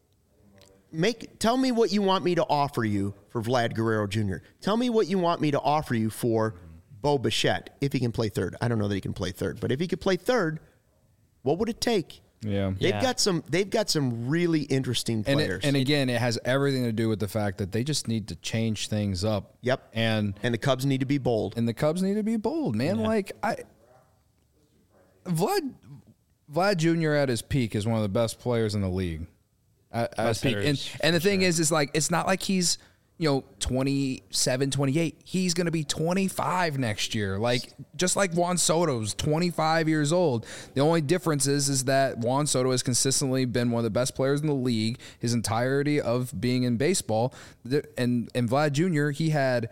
Tell me what you want me to offer you for Vlad Guerrero Jr. Tell me what you want me to offer you for Bo Bichette, if he can play third. I don't know that he can play third, but if he could play third, what would it take? Yeah. They've got some really interesting players. And again, it has everything to do with the fact that they just need to change things up. Yep. And the Cubs need to be bold. And the Cubs need to be bold, man. Yeah. Vlad Jr. at his peak is one of the best players in the league. At his peak. And the thing is like it's not like he's, 27, 28. He's going to be 25 next year. Like, just like Juan Soto's 25 years old. The only difference is that Juan Soto has consistently been one of the best players in the league his entirety of being in baseball. And Vlad Jr., he had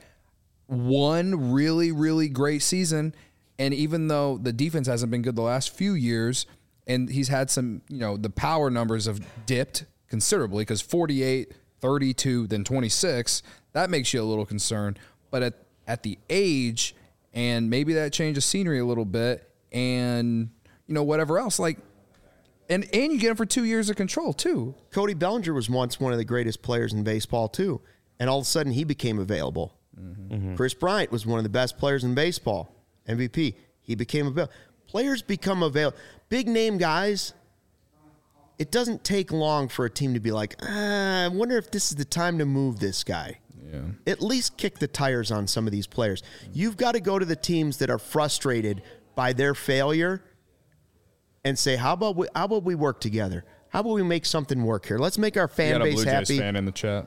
one really, really great season. And even though the defense hasn't been good the last few years, and he's had some, the power numbers have dipped considerably because 48, 32, then 26, that makes you a little concerned. But at the age, and maybe that change of scenery a little bit, and whatever else, like, and you get him for 2 years of control too. Cody Bellinger was once one of the greatest players in baseball too, and all of a sudden he became available. Mm-hmm. Chris Bryant was one of the best players in baseball, MVP. He became available. Players become available. Big name guys. It doesn't take long for a team to be like, I wonder if this is the time to move this guy. Yeah. At least kick the tires on some of these players. You've got to go to the teams that are frustrated by their failure and say, how about we work together? How about we make something work here? Let's make our fan base Blue Jays happy. Fan in the chat.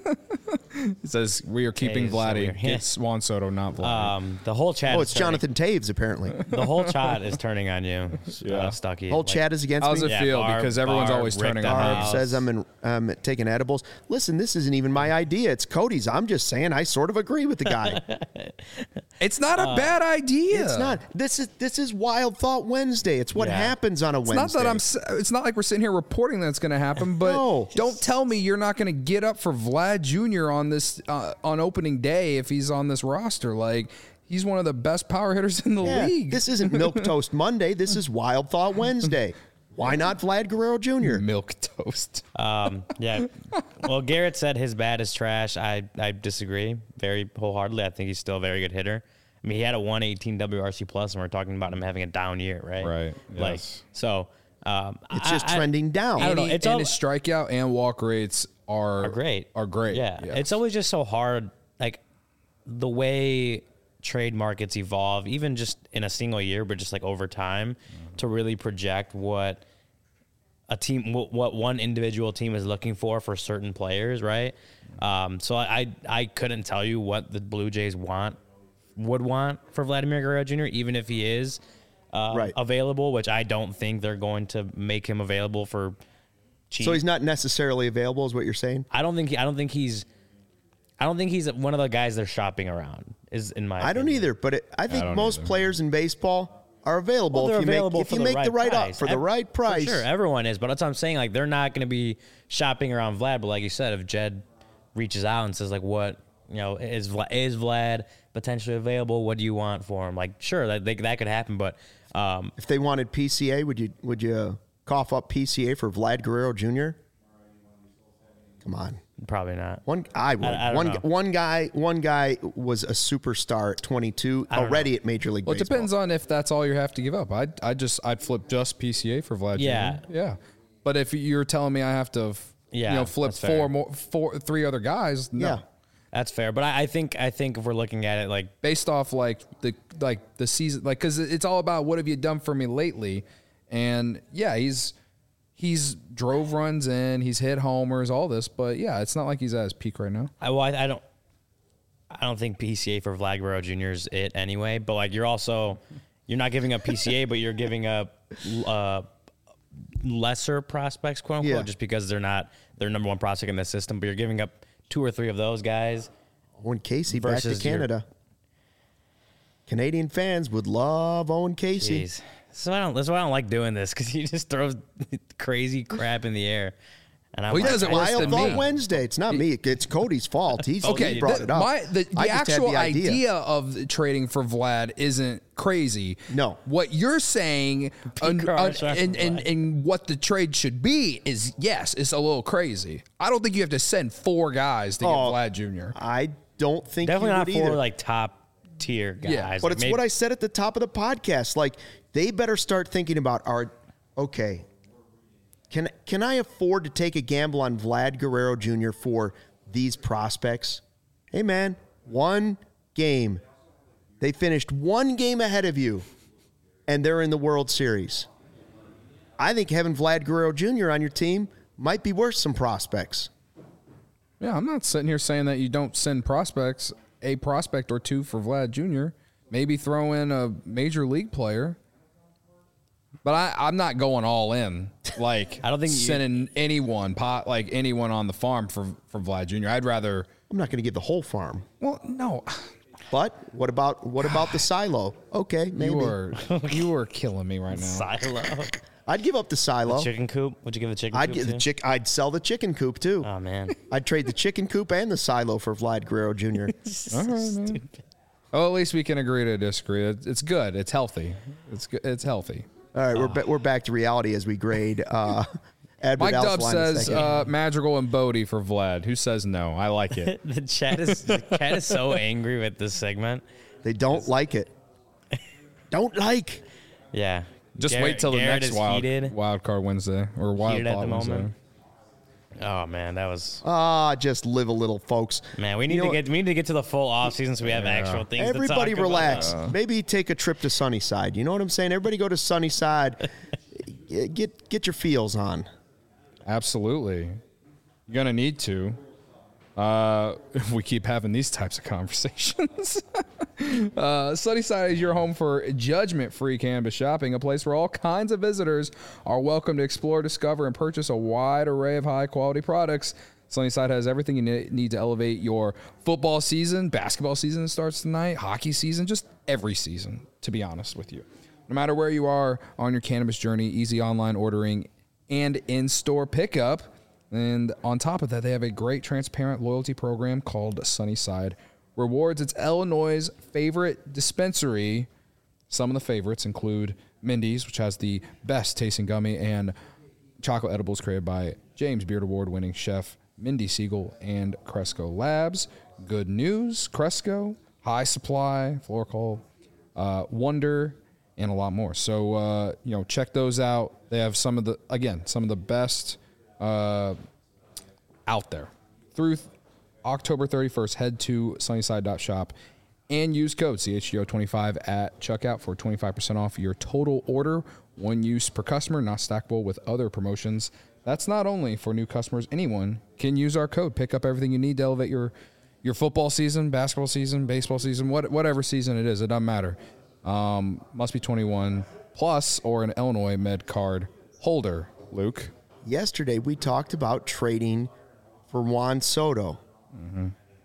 It says we are keeping Vladdy. It's Juan Soto, not Vladdy. The whole chat. Oh, it's Jonathan Taves apparently. The whole chat is turning on you, Stucky. The whole chat is against me. How does it feel? Because everyone's always turning on me. Says I'm taking edibles. Listen, this isn't even my idea. It's Cody's. I'm just saying I sort of agree with the guy. It's not a bad idea. It's not. This is Wild Thought Wednesday. It's what happens on a Wednesday. It's not like we're sitting here reporting that's going to happen. But No. Don't tell me you're not going to get up for Vlad Jr. on this on opening day if he's on this roster. Like, he's one of the best power hitters in the league. This isn't Milquetoast Monday. This is Wild Thought Wednesday. Why not Vlad Guerrero Jr.? Milk toast. Yeah. Well, Garrett said his bat is trash. I disagree very wholeheartedly. I think he's still a very good hitter. I mean, he had a 118 WRC plus, and we're talking about him having a down year, right? Right. Like, Yes. so It's just trending down. I don't know. And It's all his strikeout and walk rates are great. Are great. Yeah. Yes. It's always just so hard. Like, the way trade markets evolve, even just in a single year, but just like over time, to really project what a team, what one individual team is looking for certain players, right? So I couldn't tell you what the Blue Jays would want for Vladimir Guerrero Jr., even if he is available, which I don't think they're going to make him available for cheap. So he's not necessarily available, is what you're saying? I don't think he's one of the guys they're shopping around. Is in my I don't opinion. either, but I think most players in baseball are available Well, if you make the right price. for the right price. For sure, everyone is, but that's what I'm saying. Like, they're not going to be shopping around Vlad. But like you said, if Jed reaches out and says, like, what, is Vlad potentially available? What do you want for him? Like, sure, that could happen. But If they wanted PCA, would you cough up PCA for Vlad Guerrero Jr.? Come on. probably not. I would. I don't know. One guy was a superstar at 22 already at Major League Well, it Baseball. depends on if that's all you have to give up. I'd flip just PCA for Vlad. Yeah. Jr. Yeah. But if you're telling me I have to, flip that's fair. three other guys, no. Yeah. That's fair. But I think if we're looking at it like Based off the season, because it's all about what have you done for me lately, and yeah, he's drove runs in, he's hit homers, all this, but yeah, it's not like he's at his peak right now. I don't think PCA for Vlad Guerrero Jr. is it anyway. But like you're not giving up PCA, but you're giving up lesser prospects, quote unquote, just because they're not their number one prospect in the system. But you're giving up 2 or 3 of those guys. Owen Casey back to versus Canada. Canadian fans would love Owen Casey. Jeez. That's why I don't like doing this, because he just throws crazy crap in the air. And I'm Well, he does it worse Wild than Thought me. Wednesday. It's not me. It's Cody's fault. He brought it up. The I just had actual the idea of trading for Vlad isn't crazy. No. What you're saying and what the trade should be is, yes, it's a little crazy. I don't think you have to send 4 guys to get Vlad Jr. I don't think definitely you not would for either. like top tier guys. Yeah, But it's what I said at the top of the podcast. Like, they better start thinking about okay, can I afford to take a gamble on Vlad Guerrero Jr. for these prospects? Hey, man, 1 game. They finished 1 game ahead of you, and they're in the World Series. I think having Vlad Guerrero Jr. on your team might be worth some prospects. Yeah, I'm not sitting here saying that you don't send prospects, a prospect or two for Vlad Jr. Maybe throw in a major league player. But I'm not going all in. Like, I don't think sending anyone on the farm for Vlad Jr. I'd rather. I'm not going to give the whole farm. Well, no. But what about the silo? Okay, maybe. You are killing me right now. Silo. I'd give up the silo. Chicken coop. Would you give the chicken I'd coop give the too? I'd sell the chicken coop too. Oh man. I'd trade the chicken coop and the silo for Vlad Guerrero Jr. All right, man. Oh, at least we can agree to disagree. It's good. It's healthy. It's good. It's healthy. All right, we're back to reality as we grade. Mike Dub says Madrigal and Bodie for Vlad. Who says no? I like it. The chat is so angry with this segment. They don't like it. Don't like. Yeah. Just Garrett- wait till the Garrett next is heated. wild card Wednesday or wild Heated at card the Wednesday. moment. Oh man, that was Just live a little, folks. man. We need to get to the full off season so we have actual things. Everybody to talk relax. About. Maybe take a trip to Sunnyside. You know what I'm saying? Everybody go to Sunnyside. Get your feels on. Absolutely. You're going to need to. If we keep having these types of conversations. Sunnyside is your home for judgment-free cannabis shopping, a place where all kinds of visitors are welcome to explore, discover, and purchase a wide array of high-quality products. Sunnyside has everything you need to elevate your football season. Basketball season starts tonight. Hockey season, just every season, to be honest with you. No matter where you are on your cannabis journey, easy online ordering and in-store pickup. And on top of that, they have a great transparent loyalty program called Sunnyside Rewards. It's Illinois' favorite dispensary. Some of the favorites include Mindy's, which has the best tasting gummy and chocolate edibles created by James Beard Award-winning chef Mindy Siegel and Cresco Labs. Good News, Cresco, High Supply, Florcol, Wonder, and a lot more. So, check those out. They have some of the best out there. Through October 31st, head to sunnyside.shop and use code CHGO25 at checkout for 25% off your total order. One use per customer, not stackable with other promotions. That's not only for new customers. Anyone can use our code. Pick up everything you need to elevate your football season, basketball season, baseball season, whatever season it is. It doesn't matter. Must be 21 plus or an Illinois Med card holder. Luke. Yesterday, we talked about trading for Juan Soto. Mm-hmm.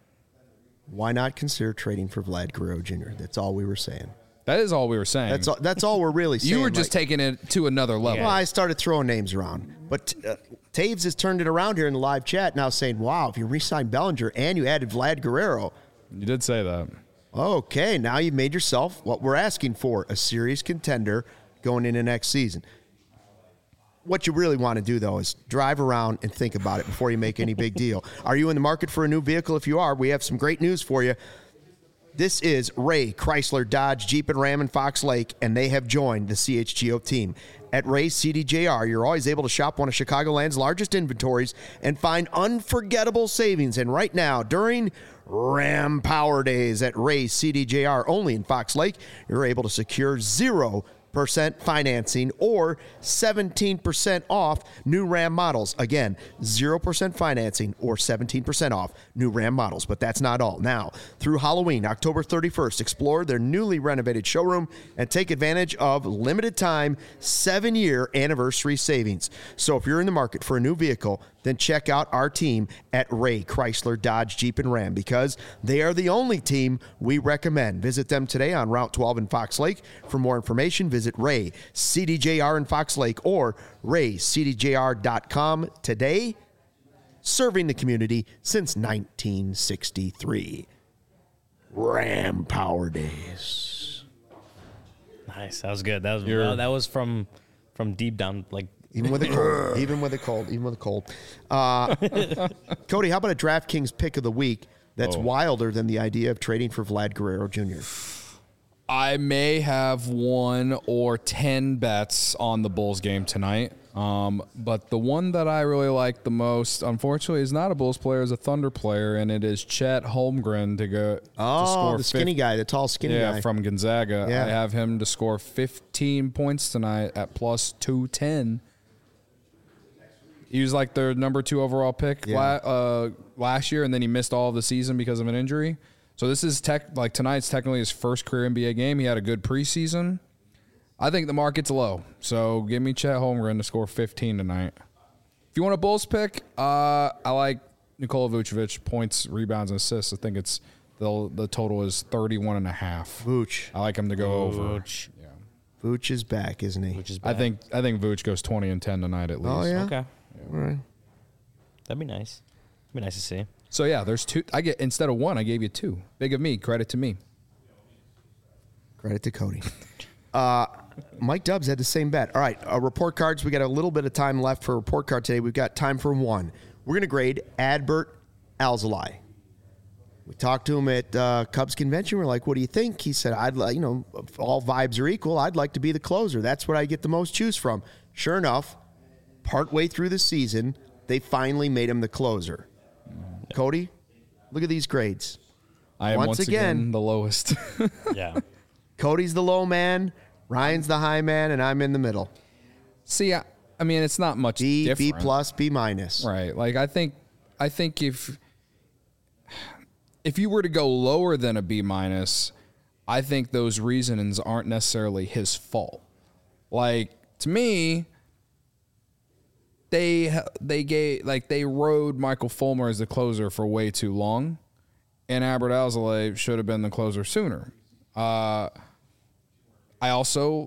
Why not consider trading for Vlad Guerrero Jr.? That's all we were saying. That is all we were saying. That's all we're really saying. You were just taking it to another level. Well, I started throwing names around. But Taves has turned it around here in the live chat now saying, wow, if you re-signed Bellinger and you added Vlad Guerrero. You did say that. Okay, now you've made yourself what we're asking for, a serious contender going into next season. What you really want to do, though, is drive around and think about it before you make any big deal. Are you in the market for a new vehicle? If you are, we have some great news for you. This is Ray Chrysler Dodge Jeep and Ram in Fox Lake, and they have joined the CHGO team. At Ray CDJR, you're always able to shop one of Chicagoland's largest inventories and find unforgettable savings. And right now, during Ram Power Days at Ray CDJR, only in Fox Lake, you're able to secure 0% financing or 17% off new Ram models. Again, 0% financing or 17% off new Ram models. But that's not all. Now, through Halloween, October 31st, explore their newly renovated showroom and take advantage of limited time 7-year anniversary savings. So if you're in the market for a new vehicle, then check out our team at Ray Chrysler Dodge Jeep and Ram because they are the only team we recommend. Visit them today on Route 12 in Fox Lake. For more information, visit Ray CDJR in Fox Lake or raycdjr.com today. Serving the community since 1963. Ram Power Days. Nice. That was good. That was from deep down, like. Even with a cold. Cody, how about a DraftKings pick of the week that's wilder than the idea of trading for Vlad Guerrero Jr.? I may have 1 or 10 bets on the Bulls game tonight. But the one that I really like the most, unfortunately, is not a Bulls player, is a Thunder player, and it is Chet Holmgren to score the skinny guy, the tall skinny guy. Yeah, from Gonzaga. Yeah. I have him to score 15 points tonight at plus 210. He was like their number 2 overall pick last year, and then he missed all of the season because of an injury. So this is tonight's technically his first career NBA game. He had a good preseason. I think the market's low, so give me Chet Holmgren to score 15 tonight. If you want a Bulls pick, I like Nikola Vucevic, points, rebounds, and assists. I think it's the total is 31.5. Vooch. I like him to go over. Vooch. Yeah. Vooch is back, isn't he? Which is bad. I think Vooch goes 20 and 10 tonight at least. Oh, yeah? Okay. All right. That'd be nice. Be nice to see. So yeah, there's 2. I get instead of 1, I gave you 2. Big of me. Credit to me. Credit to Cody. Mike Dubs had the same bet. All right, report cards. We got a little bit of time left for a report card today. We've got time for 1. We're going to grade Adbert Alzolay. We talked to him at Cubs convention. We're like, "What do you think?" He said, "I'd like, if all vibes are equal, I'd like to be the closer. That's what I get the most choose from." Sure enough, partway through the season, they finally made him the closer. Cody, look at these grades. I am once again the lowest. Yeah. Cody's the low man, Ryan's the high man, and I'm in the middle. See, I mean, it's not much B, different. B plus, B minus. Right. Like I think if you were to go lower than a B minus, I think those reasonings aren't necessarily his fault. Like to me, they rode Michael Fulmer as the closer for way too long, and Adbert Alzolay should have been the closer sooner. I also,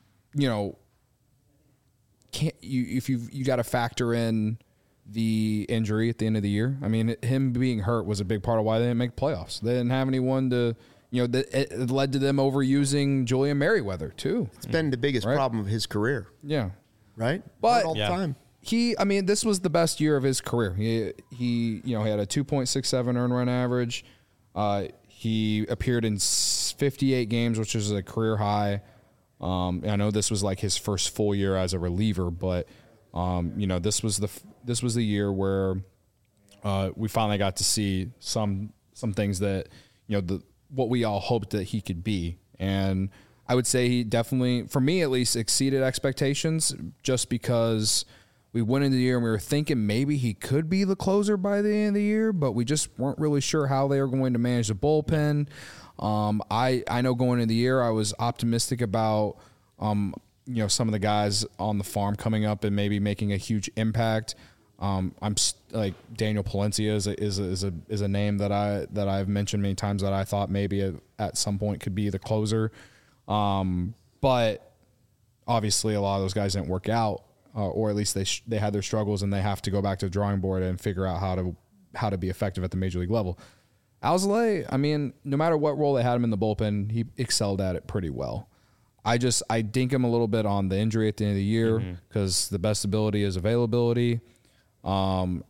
can't you got to factor in the injury at the end of the year. I mean, him being hurt was a big part of why they didn't make playoffs. They didn't have anyone to, it led to them overusing Julian Merriweather too. It's been the biggest problem of his career, Yeah. right? But all the time. This was the best year of his career. He had a 2.67 earned run average. He appeared in 58 games, which is a career high. I know this was like his first full year as a reliever, but this was the year where we finally got to see some things that what we all hoped that he could be. And I would say he definitely, for me at least, exceeded expectations just because we went into the year and we were thinking maybe he could be the closer by the end of the year, but we just weren't really sure how they were going to manage the bullpen. I know going into the year I was optimistic about some of the guys on the farm coming up and maybe making a huge impact. I'm like Daniel Palencia is a name that I've mentioned many times that I thought maybe at some point could be the closer. But obviously a lot of those guys didn't work out, or at least they had their struggles and they have to go back to the drawing board and figure out how to be effective at the major league level. Alzolay, I mean, no matter what role they had him in the bullpen, he excelled at it pretty well. I dink him a little bit on the injury at the end of the year because the best ability is availability. And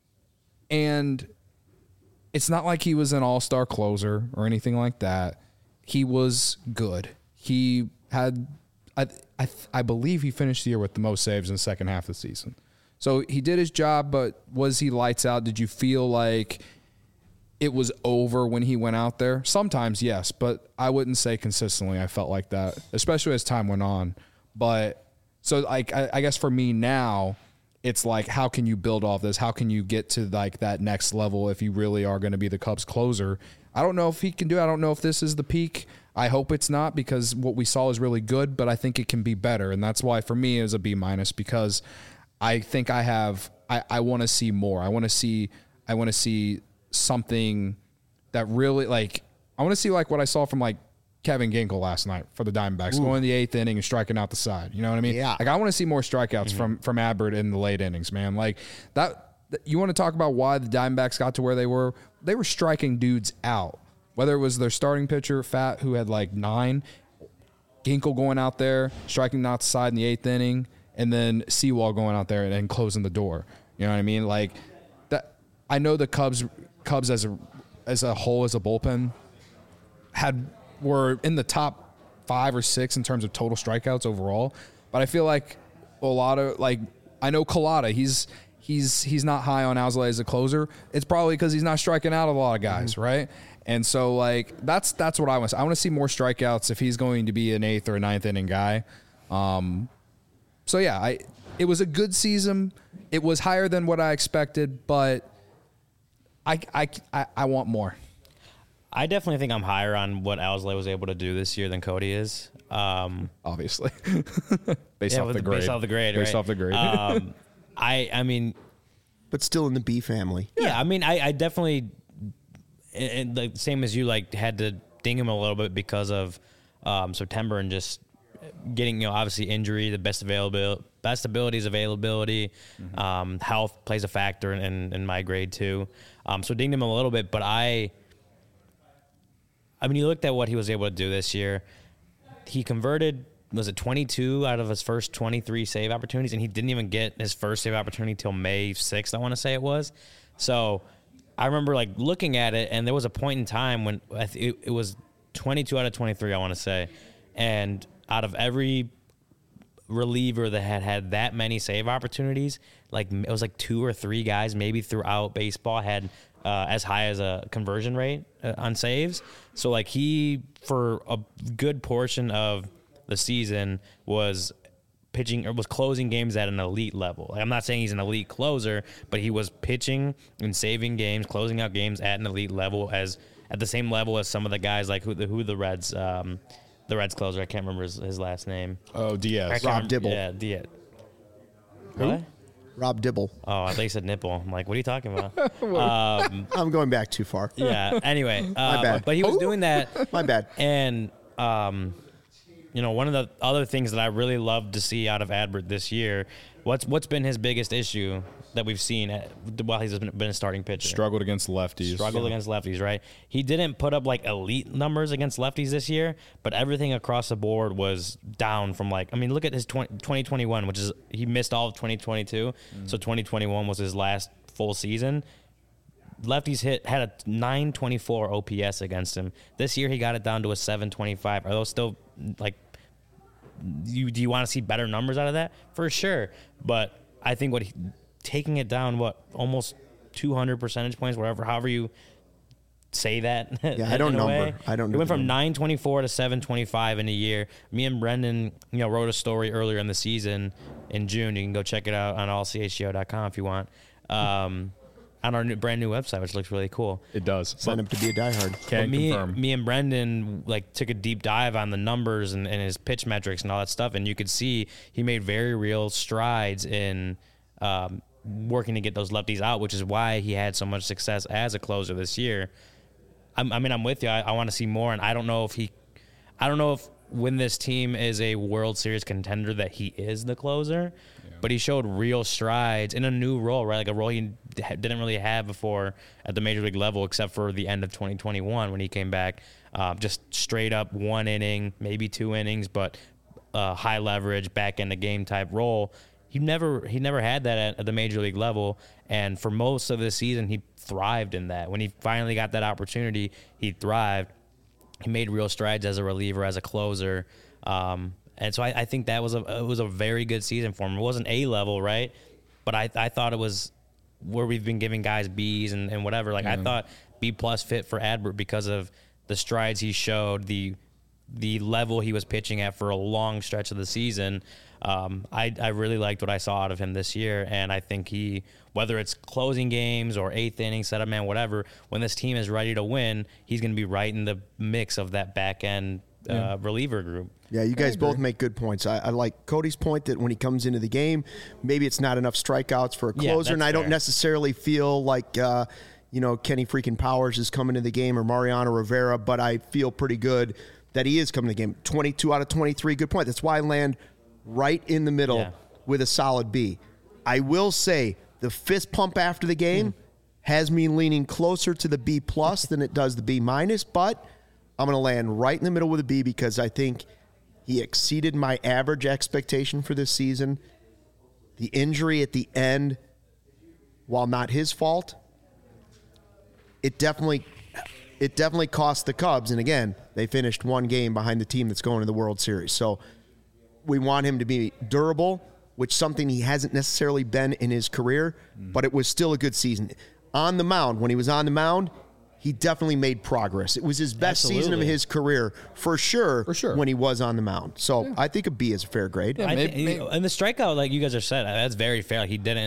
it's not like he was an all-star closer or anything like that. He was good. He had, I believe he finished the year with the most saves in the second half of the season. So he did his job, but was he lights out? Did you feel like it was over when he went out there? Sometimes, yes, but I wouldn't say consistently I felt like that, especially as time went on. But so like I guess for me now, it's like, how can you build off this? How can you get to like that next level if you really are going to be the Cubs closer? I don't know if he can do it. I don't know if this is the peak. I hope it's not, because what we saw is really good, but I think it can be better. And that's why for me it was a B minus, because I think I want to see more. I want to see something that really, like, I want to see like what I saw from like Kevin Ginkel last night for the Diamondbacks, going in the 8th inning and striking out the side. You know what I mean? Yeah. Like, I want to see more strikeouts from Adbert in the late innings, man. Like that. You want to talk about why the Diamondbacks got to where they were? They were striking dudes out. Whether it was their starting pitcher, Fat, who had like 9, Ginkel going out there, striking out the side in the 8th inning, and then Sewall going out there and then closing the door. You know what I mean? Like that. I know the Cubs as a whole, as a bullpen, were in the top 5 or 6 in terms of total strikeouts overall. But I feel like a lot of, like, I know Collada, he's not high on Alzolay as a closer. It's probably because he's not striking out a lot of guys, right? And so, like, that's what I want. I want to see more strikeouts if he's going to be an 8th or 9th inning guy. So yeah, it was a good season. it was higher than what I expected, but I want more. I definitely think I'm higher on what Owsley was able to do this year than Cody is. Obviously, based off the grade. Based off the grade. Based right? off the grade. I mean, but still in the B family. yeah. I mean, I definitely, and the same as you, like had to ding him a little bit because of September and just getting, obviously injury, the best abilities availability, health plays a factor in my grade too. So dinged him a little bit, but I mean, you looked at what he was able to do this year. He converted, was it 22 out of his first 23 save opportunities, and he didn't even get his first save opportunity till May 6th, I want to say it was. So I remember like looking at it, and there was a point in time when it was 22 out of 23, I want to say. And out of every reliever that had that many save opportunities, like it was like 2 or 3 guys maybe throughout baseball had as high as a conversion rate on saves. So like he, for a good portion of the season, was pitching or was closing games at an elite level. Like, I'm not saying he's an elite closer, but he was pitching and saving games, closing out games at an elite level, at the same level as some of the guys like who the Reds. The Reds closer, I can't remember his last name. Oh, Diaz. Rob Dibble. Yeah, Diaz. Who? What? Rob Dibble. Oh, I thought you said nipple. I'm like, what are you talking about? I'm going back too far. Yeah. Anyway, My bad. but he was doing that. My bad. And one of the other things that I really loved to see out of Adbert this year, what's been his biggest issue that we've seen while he's been a starting pitcher? Struggled against lefties. Against lefties, right? He didn't put up like elite numbers against lefties this year, but everything across the board was down from look at his 2021, which is he missed all of 2022. So 2021 was his last full season. Lefties had a 924 OPS against him. This year he got it down to a 725. Are those still like, do you want to see better numbers out of that? For sure. But I think taking it down, almost 200 percentage points, however you say that. Yeah, I don't know. It went from 924 to 725 in a year. Me and Brendan, wrote a story earlier in the season in June. You can go check it out on allchgo.com if you want. On our brand new website, which looks really cool. It does. Sign up to be a diehard. Can confirm. Me and Brendan took a deep dive on the numbers and his pitch metrics and all that stuff, and you could see he made very real strides in working to get those lefties out, which is why he had so much success as a closer this year. I'm with you. I want to see more, and I don't know if when this team is a World Series contender that he is the closer, but he showed real strides in a new role, right? Like a role he didn't really have before at the major league level, except for the end of 2021 when he came back, just straight up 1 inning, maybe 2 innings, but high leverage, back end of game type role. He never had that at the major league level, and for most of the season, he thrived in that. When he finally got that opportunity, he thrived. He made real strides as a reliever, as a closer, and so I think that was a very good season for him. It wasn't A level, right? But I thought it was where we've been giving guys Bs and whatever. I thought B+ fit for Adbert because of the strides he showed, the level he was pitching at for a long stretch of the season. I really liked what I saw out of him this year, and I think whether it's closing games or 8th inning, setup man, whatever, when this team is ready to win, he's going to be right in the mix of that back end reliever group. Yeah, you guys both make good points. I like Cody's point that when he comes into the game, maybe it's not enough strikeouts for a closer, and I don't necessarily feel like Kenny freaking Powers is coming to the game or Mariano Rivera, but I feel pretty good that he is coming to the game. 22 out of 23, good point. That's why I land right in the middle with a solid B. I will say the fist pump after the game has me leaning closer to the B+ than it does the B-, but I'm going to land right in the middle with a B because I think he exceeded my average expectation for this season. The injury at the end, while not his fault, it definitely cost the Cubs. And again, they finished 1 game behind the team that's going to the World Series. So we want him to be durable, which is something he hasn't necessarily been in his career, but it was still a good season. On the mound, when he was on the mound, he definitely made progress. It was his best season of his career, for sure, when he was on the mound. So I think a B is a fair grade. And the strikeout, like you guys have said, that's very fair. He didn't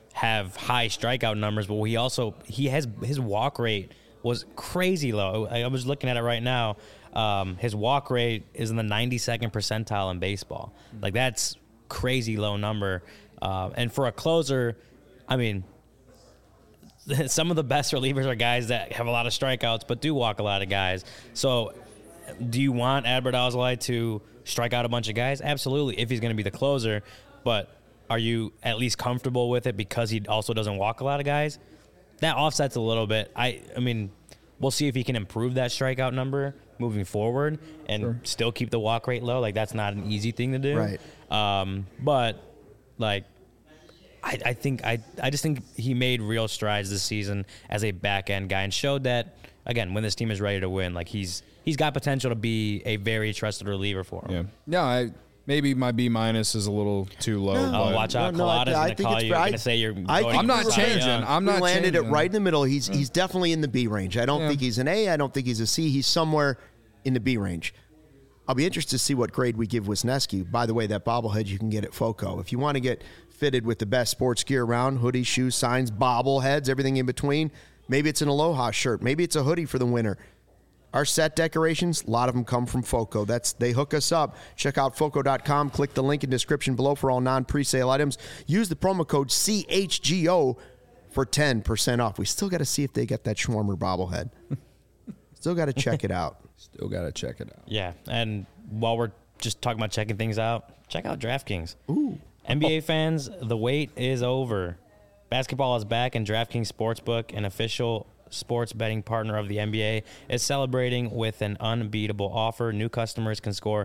have high strikeout numbers, but his walk rate was crazy low. I was looking at it right now. His walk rate is in the 92nd percentile in baseball. Like, that's crazy low number. And for a closer, I mean, some of the best relievers are guys that have a lot of strikeouts but do walk a lot of guys. So do you want Adbert Alzolay to strike out a bunch of guys? Absolutely, if he's going to be the closer. But are you at least comfortable with it because he also doesn't walk a lot of guys? That offsets a little bit. I mean, we'll see if he can improve that strikeout number moving forward and still keep the walk rate low. Like, that's not an easy thing to do. Right. But, like, I just think he made real strides this season as a back-end guy and showed that, again, when this team is ready to win, like, he's got potential to be a very trusted reliever for him. Yeah. Maybe my B- is a little too low. Oh, watch out. Colada's going to call you. You're going to say you're going I'm not changing. I'm not landed changing. it right in the middle. He's definitely in the B range. I don't think he's an A. I don't think he's a C. He's somewhere in the B range. I'll be interested to see what grade we give Wisniewski. By the way, that bobblehead you can get at FOCO. If you want to get fitted with the best sports gear around, hoodies, shoes, signs, bobbleheads, everything in between, maybe it's an Aloha shirt. Maybe it's a hoodie for the winter. Our set decorations, a lot of them come from FOCO. They hook us up. Check out FOCO.com. Click the link in description below for all non-presale items. Use the promo code CHGO for 10% off. We still got to see if they get that Schwarmer bobblehead. Still got to check it out. Still got to check it out. Yeah, and while we're just talking about checking things out, check out DraftKings. Ooh. NBA fans, the wait is over. Basketball is back, and DraftKings Sportsbook, an official sports betting partner of the NBA, is celebrating with an unbeatable offer. New customers can score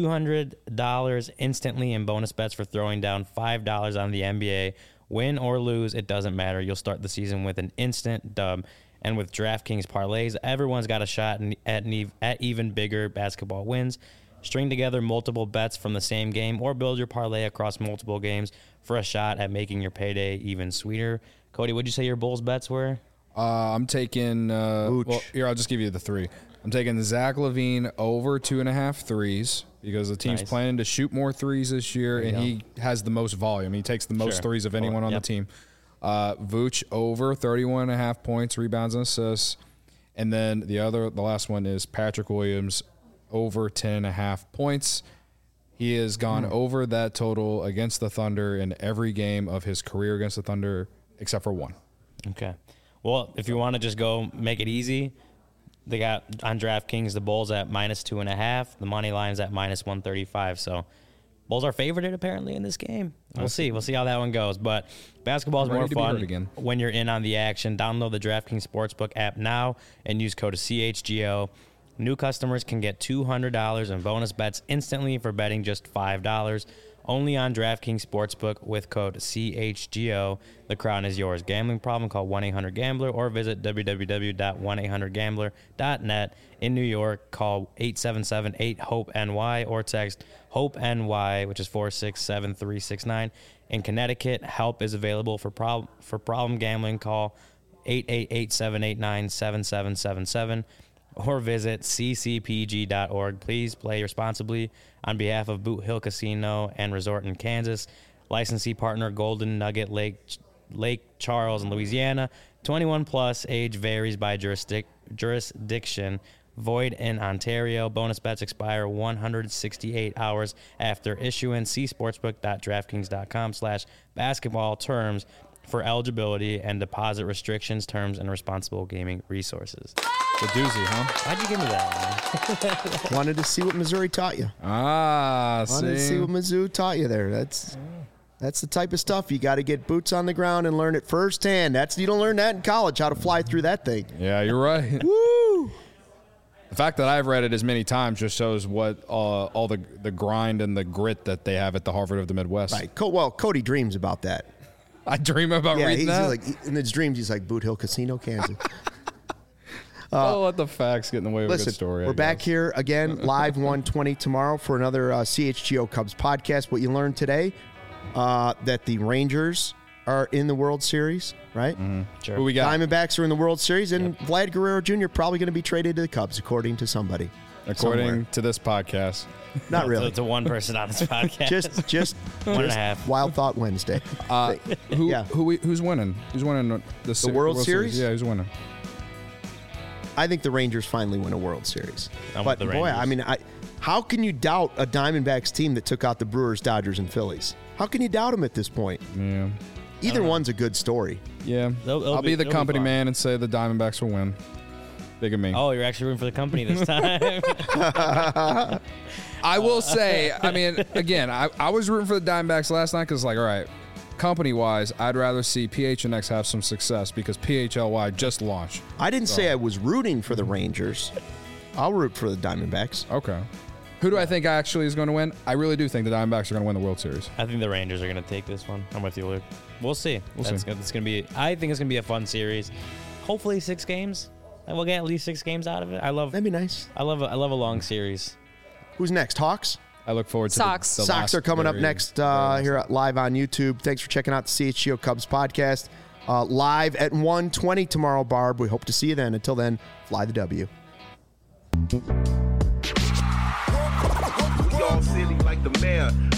$200 instantly in bonus bets for throwing down $5 on the NBA. Win or lose, it doesn't matter. You'll start the season with an instant dub. And with DraftKings parlays, everyone's got a shot at even bigger basketball wins. String together multiple bets from the same game or build your parlay across multiple games for a shot at making your payday even sweeter. Cody, what'd you say your Bulls bets were? I'm taking well, here, I'll just give you the three. I'm taking Zach LaVine over 2.5 threes because the team's planning to shoot more threes this year, and he has the most volume. He takes the most threes of anyone on the team. Vooch over 31.5 points, rebounds, and assists. And then the last one is Patrick Williams over 10.5 points. He has gone over that total against the Thunder in every game of his career against the Thunder except for one. Okay. Well, if you want to just go make it easy, they got on DraftKings the Bulls at -2.5. The money line's at -135. So Bulls are favored apparently in this game. We'll see. We'll see how that one goes. But basketball is more fun when you're in on the action. Download the DraftKings Sportsbook app now and use code CHGO. New customers can get $200 in bonus bets instantly for betting just $5. Only on DraftKings Sportsbook with code CHGO. The crown is yours. Gambling problem? Call 1-800-GAMBLER or visit www.1800gambler.net. In New York, call 877-8-HOPE-NY or text HOPE-NY, which is 467-369. In Connecticut, help is available for problem gambling. Call 888-789-7777. or visit ccpg.org. Please play responsibly. On behalf of Boot Hill Casino and Resort in Kansas, licensee partner Golden Nugget Lake Charles in Louisiana. 21 plus, age varies by jurisdiction. Void in Ontario. Bonus bets expire 168 hours after issuance. See sportsbook.draftkings.com/basketball terms for eligibility and deposit restrictions, terms, and responsible gaming resources. The doozy, huh? Why'd you give me that? Wanted to see what Missouri taught you. Wanted to see what Mizzou taught you there. That's the type of stuff you got to get boots on the ground and learn it firsthand. You don't learn that in college, how to fly through that thing. Yeah, you're right. Woo! The fact that I've read it as many times just shows what all the grind and the grit that they have at the Harvard of the Midwest. Right. Well, Cody dreams about that. I dream about reading that. Like, in his dreams, he's like Boot Hill Casino, Kansas. I'll let the facts get in the way of a good story. We're back here again, live 1:20 tomorrow for another CHGO Cubs podcast. What you learned today, that the Rangers are in the World Series, right? Mm-hmm. Sure. Who we got? Diamondbacks are in the World Series, and Vlad Guerrero Jr. probably going to be traded to the Cubs, according to somebody. According somewhere. to this podcast. Not really. To one person on this podcast. Just 1.5. Wild Thought Wednesday. Yeah. Who's winning? Who's winning The World Series? Yeah, who's winning? I think the Rangers finally win a World Series. I'm But with the boy, Rangers. I mean, how can you doubt a Diamondbacks team that took out the Brewers, Dodgers, and Phillies? How can you doubt them at this point? Yeah. Either one's a good story. Yeah. It'll I'll be the it'll company fine. man and say the Diamondbacks will win. Big of me. Oh, you're actually rooting for the company this time. I will say, I mean, again, I was rooting for the Diamondbacks last night because, like, all right, company-wise, I'd rather see PHNX have some success because PHLY just launched. I didn't say I was rooting for the Rangers. I'll root for the Diamondbacks. Okay. Who do I think actually is going to win? I really do think the Diamondbacks are going to win the World Series. I think the Rangers are going to take this one. I'm with you, Luke. We'll see. We'll see. It's going to be. I think it's going to be a fun series. Hopefully 6 games. And we'll get at least 6 games out of it. That'd be nice. I love a long series. Who's next? Hawks? I look forward to Sox. the Sox last are coming up very- next very last here live on YouTube. Thanks for checking out the CHGO Cubs podcast. Live at 1:20 tomorrow, Barb. We hope to see you then. Until then, fly the W. We all silly like the mayor.